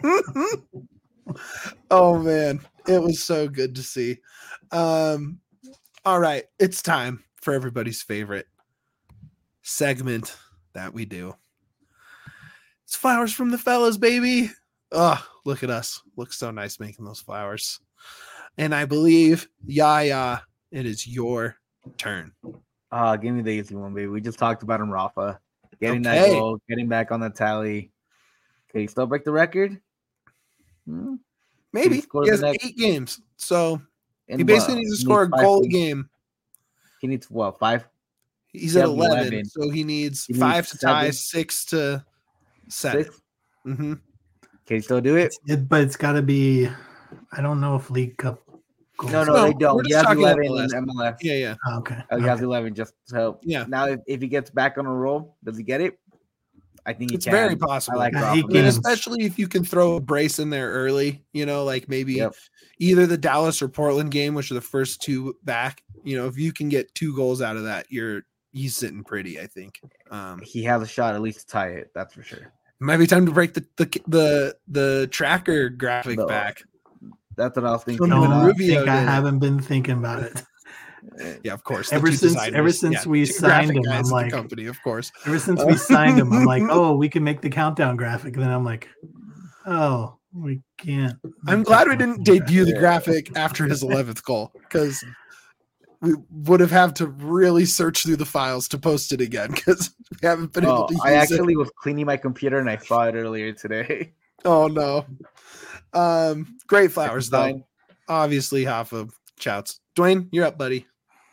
Oh man, it was so good to see. Um, all right, it's time for everybody's favorite segment that we do. It's flowers from the fellas, baby. Oh, look at us. Looks so nice making those flowers. And I believe, Yaya, it is your turn. Uh, give me the easy one, baby. We just talked about him, Rafa. Getting Okay. that goal, getting back on the tally. Can he still break the record? Hmm. Maybe He scored he has the next- eight games, so And he basically what? needs to He score a five goal a points. game. He needs what? Five? He's He at has eleven, eleven. so he needs He five needs to tie, seven. six to set. Six? Mm-hmm. Can he still do it? It's, it, but it's got to be. I don't know if League Cup. Goals No, no, No, they we're don't. just He has talking eleven M L S. in M L S. Yeah, yeah, Oh, okay. Oh, he Okay. has eleven. Just so yeah. now, if, if he gets back on a roll, does he get it? I think he It's can. very I possible. like Yeah, Rafa. he I mean, can. especially if you can throw a brace in there early, you know, like maybe Yep. either the Dallas or Portland game, which are the first two back. You know, if you can get two goals out of that, you're he's sitting pretty, I think. Um, He has a shot at least to tie it. That's for sure. might be time to break the the the, the tracker graphic No. back. That's what I was thinking. Even Don't about. Rubio think I did it. haven't been thinking about it. Yeah, of course. the Ever two since- designers. ever since we two signed graphic him, guys I'm at the like- company, of course. Ever since we signed him, I'm like, oh, we can make the countdown graphic. And then I'm like, oh, we can't. I'm make glad the we didn't countdown debut the Yeah. graphic after his eleventh goal because we would have had to really search through the files to post it again because we haven't been able Oh, to use I it. actually was cleaning my computer and I saw it earlier today. Oh no. Um, great flowers though. Fine. Obviously, half of shouts. Dwayne, you're up, buddy.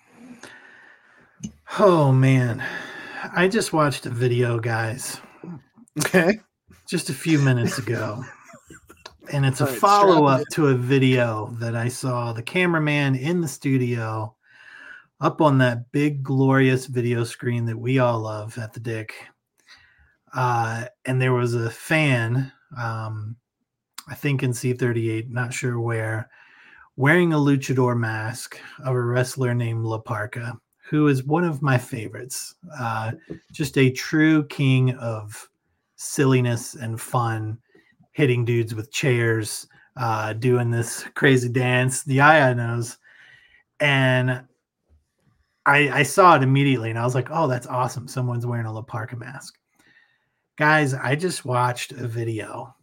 Oh man, I just watched a video, guys, Okay. just a few minutes ago, and it's a All right, follow strap up to a video that I saw the cameraman in the studio up on that big glorious video screen that we all love at the Dick, uh, and there was a fan, um, I think in C thirty-eight, not sure where, wearing a luchador mask of a wrestler named La Parca, who is one of my favorites. Uh, just a true king of silliness and fun, hitting dudes with chairs, uh, doing this crazy dance. The Yaya knows. And I, I saw it immediately and I was like, oh, that's awesome. Someone's wearing a La Parca mask. Guys, I just watched a video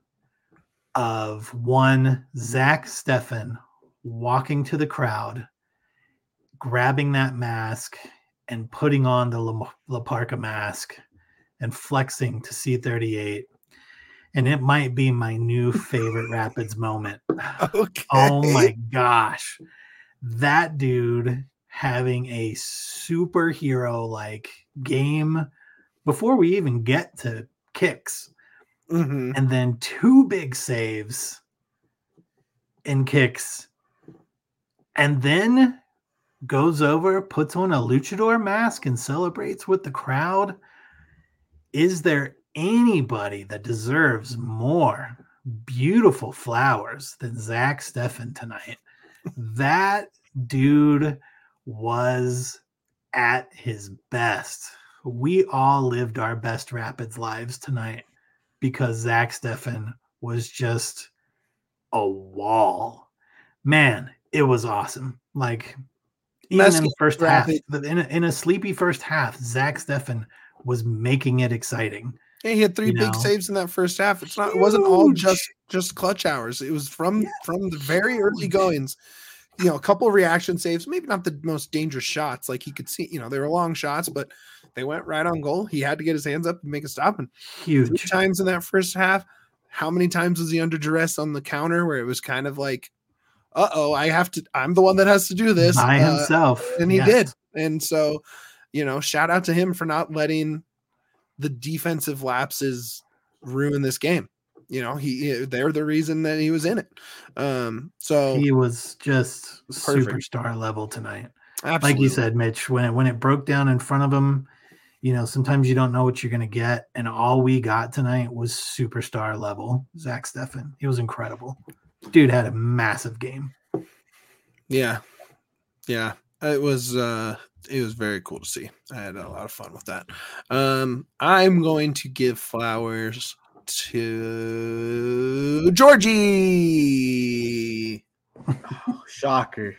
of one Zach Steffen walking to the crowd, grabbing that mask and putting on the La, La Parca mask and flexing to C thirty-eight. And it might be my new favorite Rapids moment. Okay. Oh my gosh. That dude having a superhero like game before we even get to kicks. Mhm. And then two big saves in kicks. And then goes over, puts on a luchador mask, and celebrates with the crowd. Is there anybody that deserves more beautiful flowers than Zach Steffen tonight. That dude was at his best. We all lived our best Rapids lives tonight because Zach Steffen was just a wall. Man, it was awesome. Like, even Best in the first half, Rapid. in a, in a sleepy first half, Zach Steffen was making it exciting. Yeah, he had three You big know? saves in that first half. It's not. It wasn't all Huge. just just clutch hours. It was from Yeah. from the very early goings. You know, a couple of reaction saves, maybe not the most dangerous shots. Like he could see, you know, they were long shots, but they went right on goal. He had to get his hands up and make a stop. And three Huge. times in that first half, how many times was he under duress on the counter where it was kind of like, uh oh, I have to, I'm the one that has to do this. By Uh, himself. and he Yes. did. And so, you know, shout out to him for not letting the defensive lapses ruin this game. You know, he they're the reason that he was in it. Um, so He was just Perfect. superstar level tonight. absolutely. Like you said, Mitch, when it, when it broke down in front of him, you know, sometimes you don't know what you're going to get. And all we got tonight was superstar level Zach Steffen. He was incredible. Dude had a massive game. Yeah. Yeah. It was uh it was very cool to see. I had a lot of fun with that. Um I'm going to give flowers to Georgie. Oh, shocker.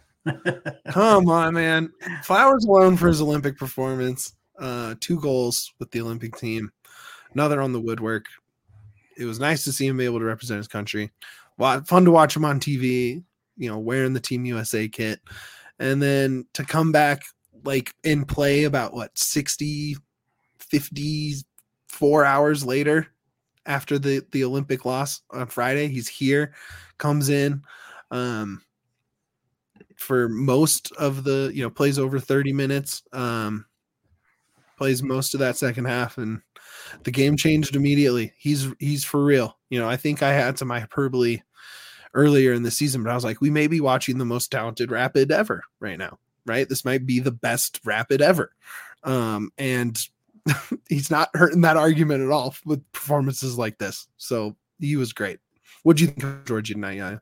Come on, man. Flowers alone for his Olympic performance. Uh two goals with the Olympic team. Another on the woodwork. It was nice to see him be able to represent his country. Well, fun to watch him on T V, you know, wearing the Team U S A kit. And then to come back like in play about what sixty, fifty-four hours later after the, the Olympic loss on Friday, he's here, comes in um, for most of the, you know, plays over thirty minutes, um, plays most of that second half, and the game changed immediately. He's, he's for real. You know, I think I had some hyperbole earlier in the season, but I was like, we may be watching the most talented Rapid ever right now, right? This might be the best Rapid ever. Um, and he's not hurting that argument at all with performances like this. So he was great. What'd you think of Georgie tonight? Yeah.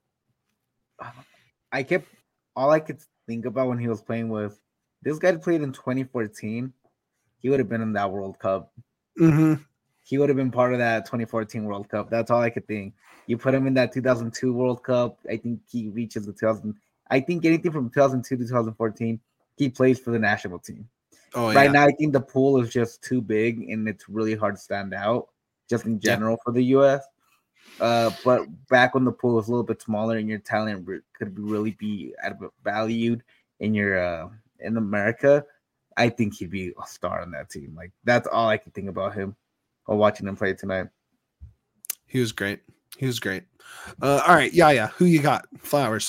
I kept all I could think about when he was playing was this guy played in twenty fourteen. He would have been in that World Cup. Mm-hmm. He would have been part of that twenty fourteen World Cup. That's all I could think. You put him in that two thousand two World Cup. I think he reaches the two thousand. I think anything from two thousand two to two thousand fourteen, he plays for the national team. Oh, right yeah. now, I think the pool is just too big and it's really hard to stand out just in general yeah. for the U S. Uh, but back when the pool was a little bit smaller and your talent could really be valued in your uh, in America, I think he'd be a star on that team. Like that's all I can think about him while watching him play tonight. He was great. He was great. Uh, all right, yeah, yeah. Who you got? Flowers.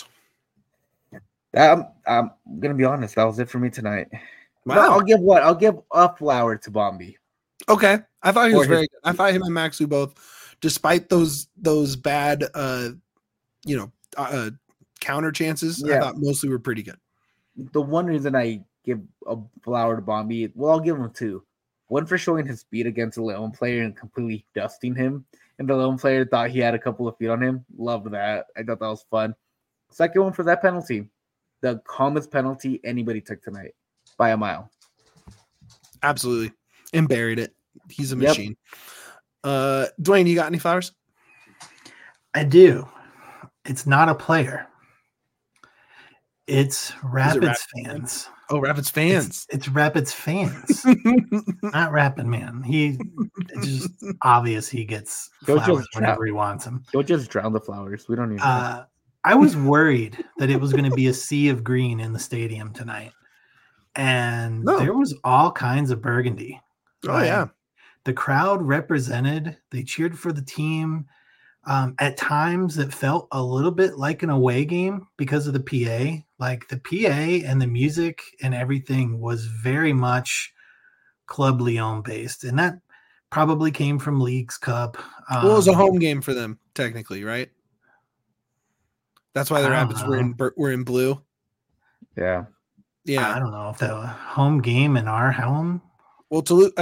I'm, I'm gonna be honest. That was it for me tonight. Wow. No, I'll give what? I'll give a flower to Bombi. Okay, I thought he was Or very his- good. I thought him and Maxu both, despite those those bad, uh, you know, uh, counter chances. I Yeah. thought mostly were pretty good. The one reason I give a flower to Bombi, well, I'll give him two. One for showing his speed against a Leon player and completely dusting him. And the Leon player thought he had a couple of feet on him. Loved that. I thought that was fun. Second one for that penalty. The calmest penalty anybody took tonight by a mile. Absolutely, and buried it. He's a Yep. machine. Uh, Dwayne, you got any flowers? I do. It's not a player. It's Rapids Rapids fans. Oh, Rapids It's, fans. it's Rapids fans, not Rapid Man. He it's just obvious he gets He'll just flowers trap. whenever he wants them. He'll just drown the flowers. We don't need Uh, I was worried that it was going to be a sea of green in the stadium tonight, and No. there was all kinds of burgundy. oh Like, yeah, the crowd represented. They cheered for the team. Um, at times, it felt a little bit like an away game because of the P A. Like the P A and the music and everything was very much Club Leon based, and that probably came from Leagues Cup. Um, well, it was a home game for them, technically, right? That's why the I don't Rapids were in bur- were in blue. Yeah. I Yeah. don't know if that was a home game in our home. Well, Toulouse. I mean,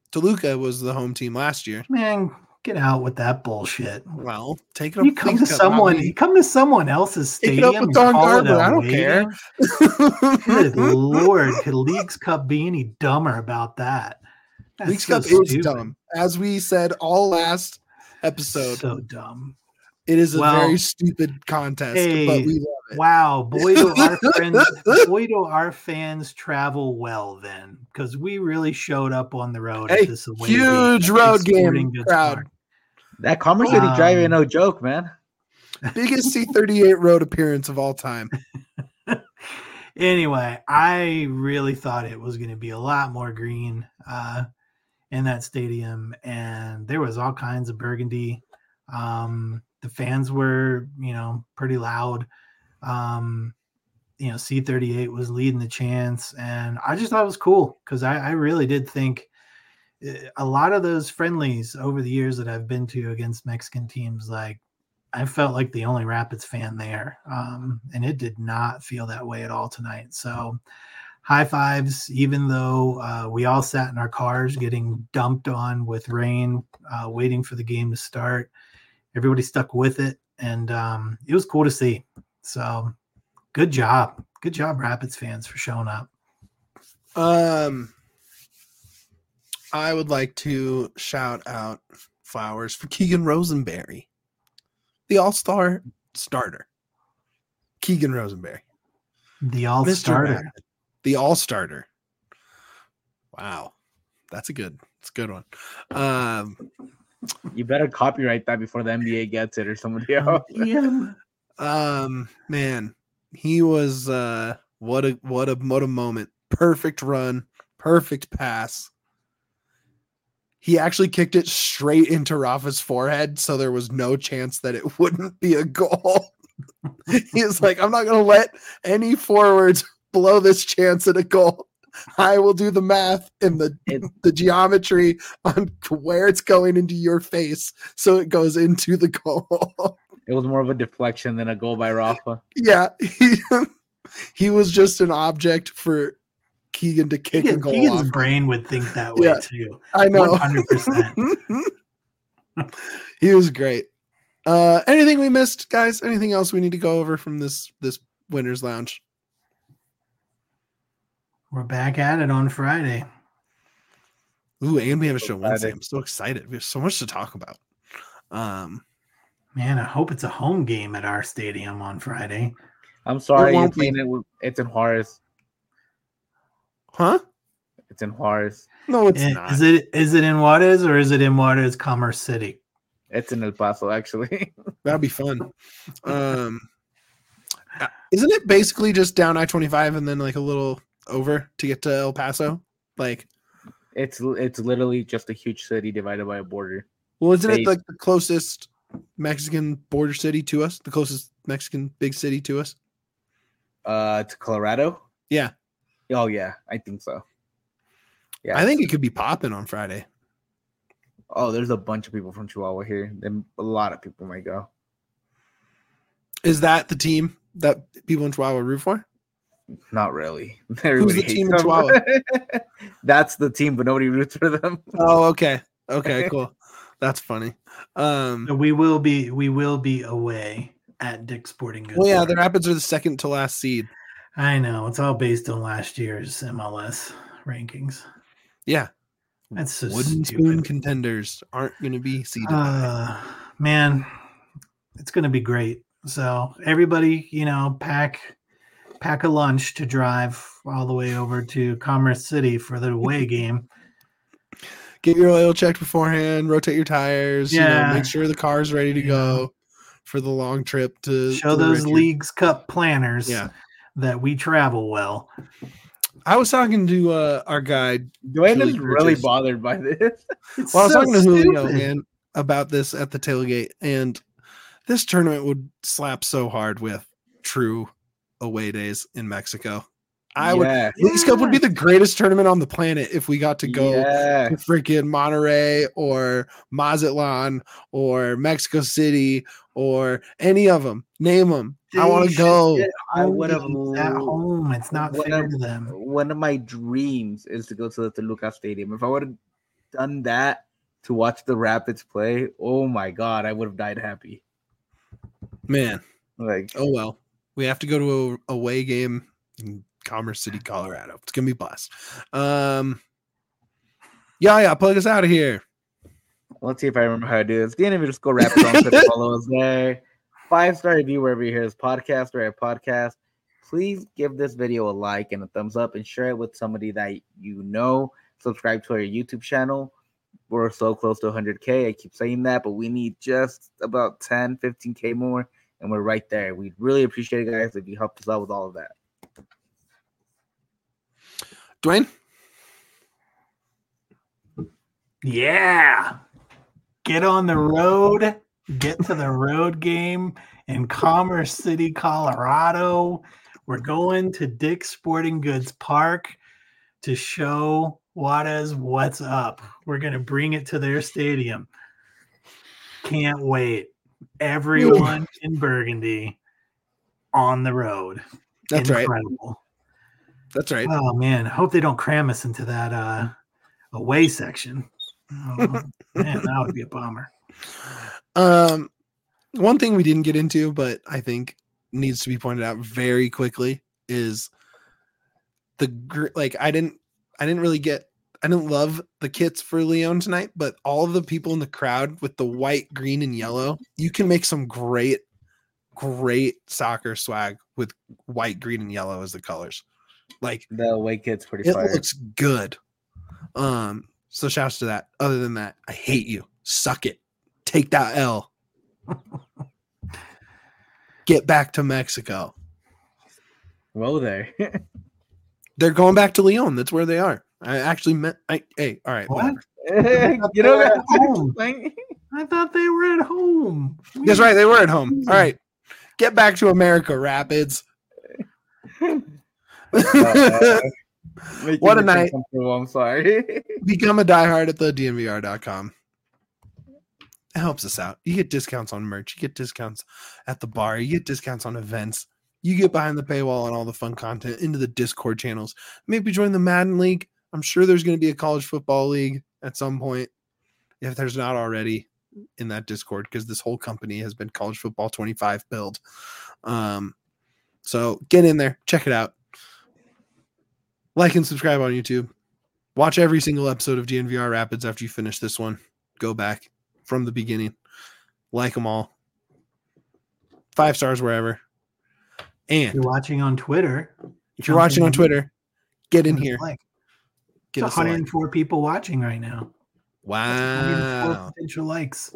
Toluca was the home team last year. Man, get out with that bullshit. Well, take it up. You come to Leagues Cup, not someone, me. you come to someone else's Take it stadium up with and Don call it Garber. a I don't away care. game? Good Lord, could Leagues Cup be any dumber about that? That's Leagues so Cup is stupid. dumb. As we said all last episode, So dumb. it is a Well, very stupid contest, hey, but we love it. Wow, boy do our friends, boy do our fans travel well then, because we really showed up on the road Hey, at this away huge game, road Big Sporting game Goods crowd. Park. That Commerce City Drive ain't Um, no joke, man. Biggest C thirty-eight road appearance of all time. Anyway, I really thought it was going to be a lot more green uh, in that stadium, and there was all kinds of burgundy. Um, the fans were, you know, pretty loud. Um, you know, C thirty-eight was leading the chants, and I just thought it was cool because I, I really did think a lot of those friendlies over the years that I've been to against Mexican teams, like I felt like the only Rapids fan there, um, and it did not feel that way at all tonight. So high fives, even though uh, we all sat in our cars getting dumped on with rain, uh, waiting for the game to start. Everybody stuck with it, and um, it was cool to see. So good job. Good job, Rapids fans, for showing up. Um, I would like to shout out flowers for Keegan Rosenberry, the all-star starter. Keegan Rosenberry. The all Mister starter. Rapid, the all-starter. Wow. That's a good, that's a good one. Um, You better copyright that before the N B A gets it or somebody else. Yeah. um, man, he was, uh, what a, what a, what a moment. Perfect run, perfect pass. He actually kicked it straight into Rafa's forehead, so there was no chance that it wouldn't be a goal. He was like, I'm not going to let any forwards blow this chance at a goal. I will do the math and the, It- the geometry on where it's going into your face so it goes into the goal. It was more of a deflection than a goal by Rafa. Yeah. He, he was just an object for Keegan to kick a Keegan, goal Keegan's off. brain would think that way Yeah. too. I know. one hundred percent. He was great. Uh, anything we missed, guys? Anything else we need to go over from this this Winners Lounge? We're back at it on Friday. Ooh, and we have a show Wednesday. Friday. I'm so excited. We have so much to talk about. Um, Man, I hope it's a home game at our stadium on Friday. I'm sorry, you're won't be. playing it with, it's in Juarez. huh? It's in Juarez. No, it's Eh, not. Is it is it in Juarez or is it in Juarez Commerce City? It's in El Paso, actually. That'd be fun. Um, uh, isn't it basically just down I twenty-five and then like a little over to get to El Paso? Like, It's it's literally just a huge city divided by a border. well, isn't it They- like the closest Mexican border city to us? The closest Mexican big city to us? Uh, to Colorado. Yeah. Oh yeah, I think so. Yeah, I think it could be popping on Friday. Oh, there's a bunch of people from Chihuahua here. Then a lot of people might go. Is that the team that people in Chihuahua root for? Not really. Everybody the hates team in them. Chihuahua? That's the team, but nobody roots for them. Oh, okay. Okay, cool. That's funny. Um, So we will be we will be away at Dick's Sporting Goods. well, yeah, Park. the Rapids are the second to last seed. I know it's all based on last year's M L S rankings. Yeah. That's so Wooden spoon stupid. contenders aren't going to be seeded. high. Uh, man, it's going to be great. So everybody, you know, pack pack a lunch to drive all the way over to Commerce City for the away game. Get your oil checked beforehand, rotate your tires, you know, Yeah. make sure the car's ready to Yeah. go for the long trip to Show to the those Richard. Leagues Cup planners Yeah. that we travel well. I was talking to uh, our guy. Dwayne Julie is really Bridges. bothered by this. It's Well, I was so talking to Julio, stupid. man, about this at the tailgate, and this tournament would slap so hard with true away days in Mexico. I would. yeah. Leagues Cup would be the greatest tournament on the planet if we got to go Yeah. to freaking Monterrey or Mazatlan or Mexico City or any of them. Name them. I They want to should go. get I home would've games at home. It's not One fair of- to them. One of my dreams is to go to the Toluca Stadium. If I would done that to watch the Rapids play, oh my god, I would have died happy. Man, like oh well. We have to go to a away game in Commerce City, Colorado. It's gonna be blessed. Um, yeah, yeah, plug us out of here. Let's see if I remember how to do this. The end of it, just go Rapids on Twitter, follow us there. Five star review wherever you hear this podcast or a podcast. Please give this video a like and a thumbs up and share it with somebody that you know. Subscribe to our YouTube channel. We're so close to one hundred K. I keep saying that, but we need just about ten, fifteen K more, and we're right there. We'd really appreciate it, guys, if you help us out with all of that. Dwayne? Yeah. Get on the road. Get to the road game in Commerce City, Colorado. We're going to Dick's Sporting Goods Park to show Juarez what's up. We're going to bring it to their stadium. Can't wait. Everyone in Burgundy on the road. That's Incredible. right. That's right. Oh, man. I hope they don't cram us into that uh, away section. Oh, man, that would be a bummer. Um, one thing we didn't get into, but I think needs to be pointed out very quickly is the gr- like I didn't I didn't really get I didn't love the kits for Leon tonight, but all of the people in the crowd with the white, green, and yellow, you can make some great, great soccer swag with white, green, and yellow as the colors. Like the away kit's pretty it fire. looks good. Um, so shouts to that. Other than that, I hate you. Suck it. Take that L. Get back to Mexico. Whoa there. They're going back to Leon. That's where they are. I actually meant. I, hey, all right. What? you know at home. I thought they were at home. That's right. They were at home. All right. Get back to America, Rapids. uh, What a night. I'm sorry. Become a diehard at the D N V R dot com. It helps us out. You get discounts on merch. You get discounts at the bar. You get discounts on events. You get behind the paywall and all the fun content into the Discord channels. Maybe join the Madden League. I'm sure there's going to be a college football league at some point, if there's not already in that Discord, because this whole company has been College Football twenty-five build. Um, so get in there. Check it out. Like and subscribe on YouTube. Watch every single episode of D N V R Rapids after you finish this one. Go back from the beginning. Like them all. Five stars wherever. And if you're watching on Twitter, if you're watching on Twitter, get in here. Like, Get it's us a one hundred four like. people watching right now. Wow. one hundred four potential likes.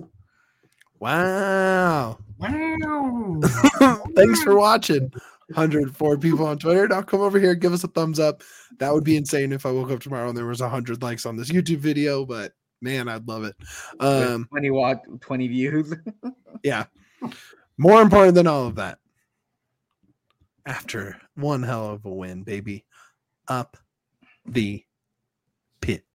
Wow. Wow. Thanks for watching. one hundred four people on Twitter. Now come over here, give us a thumbs up. That would be insane if I woke up tomorrow and there was one hundred likes on this YouTube video, but man, I'd love it. Um, twenty watch, twenty views. yeah. More important than all of that, after one hell of a win, baby, up the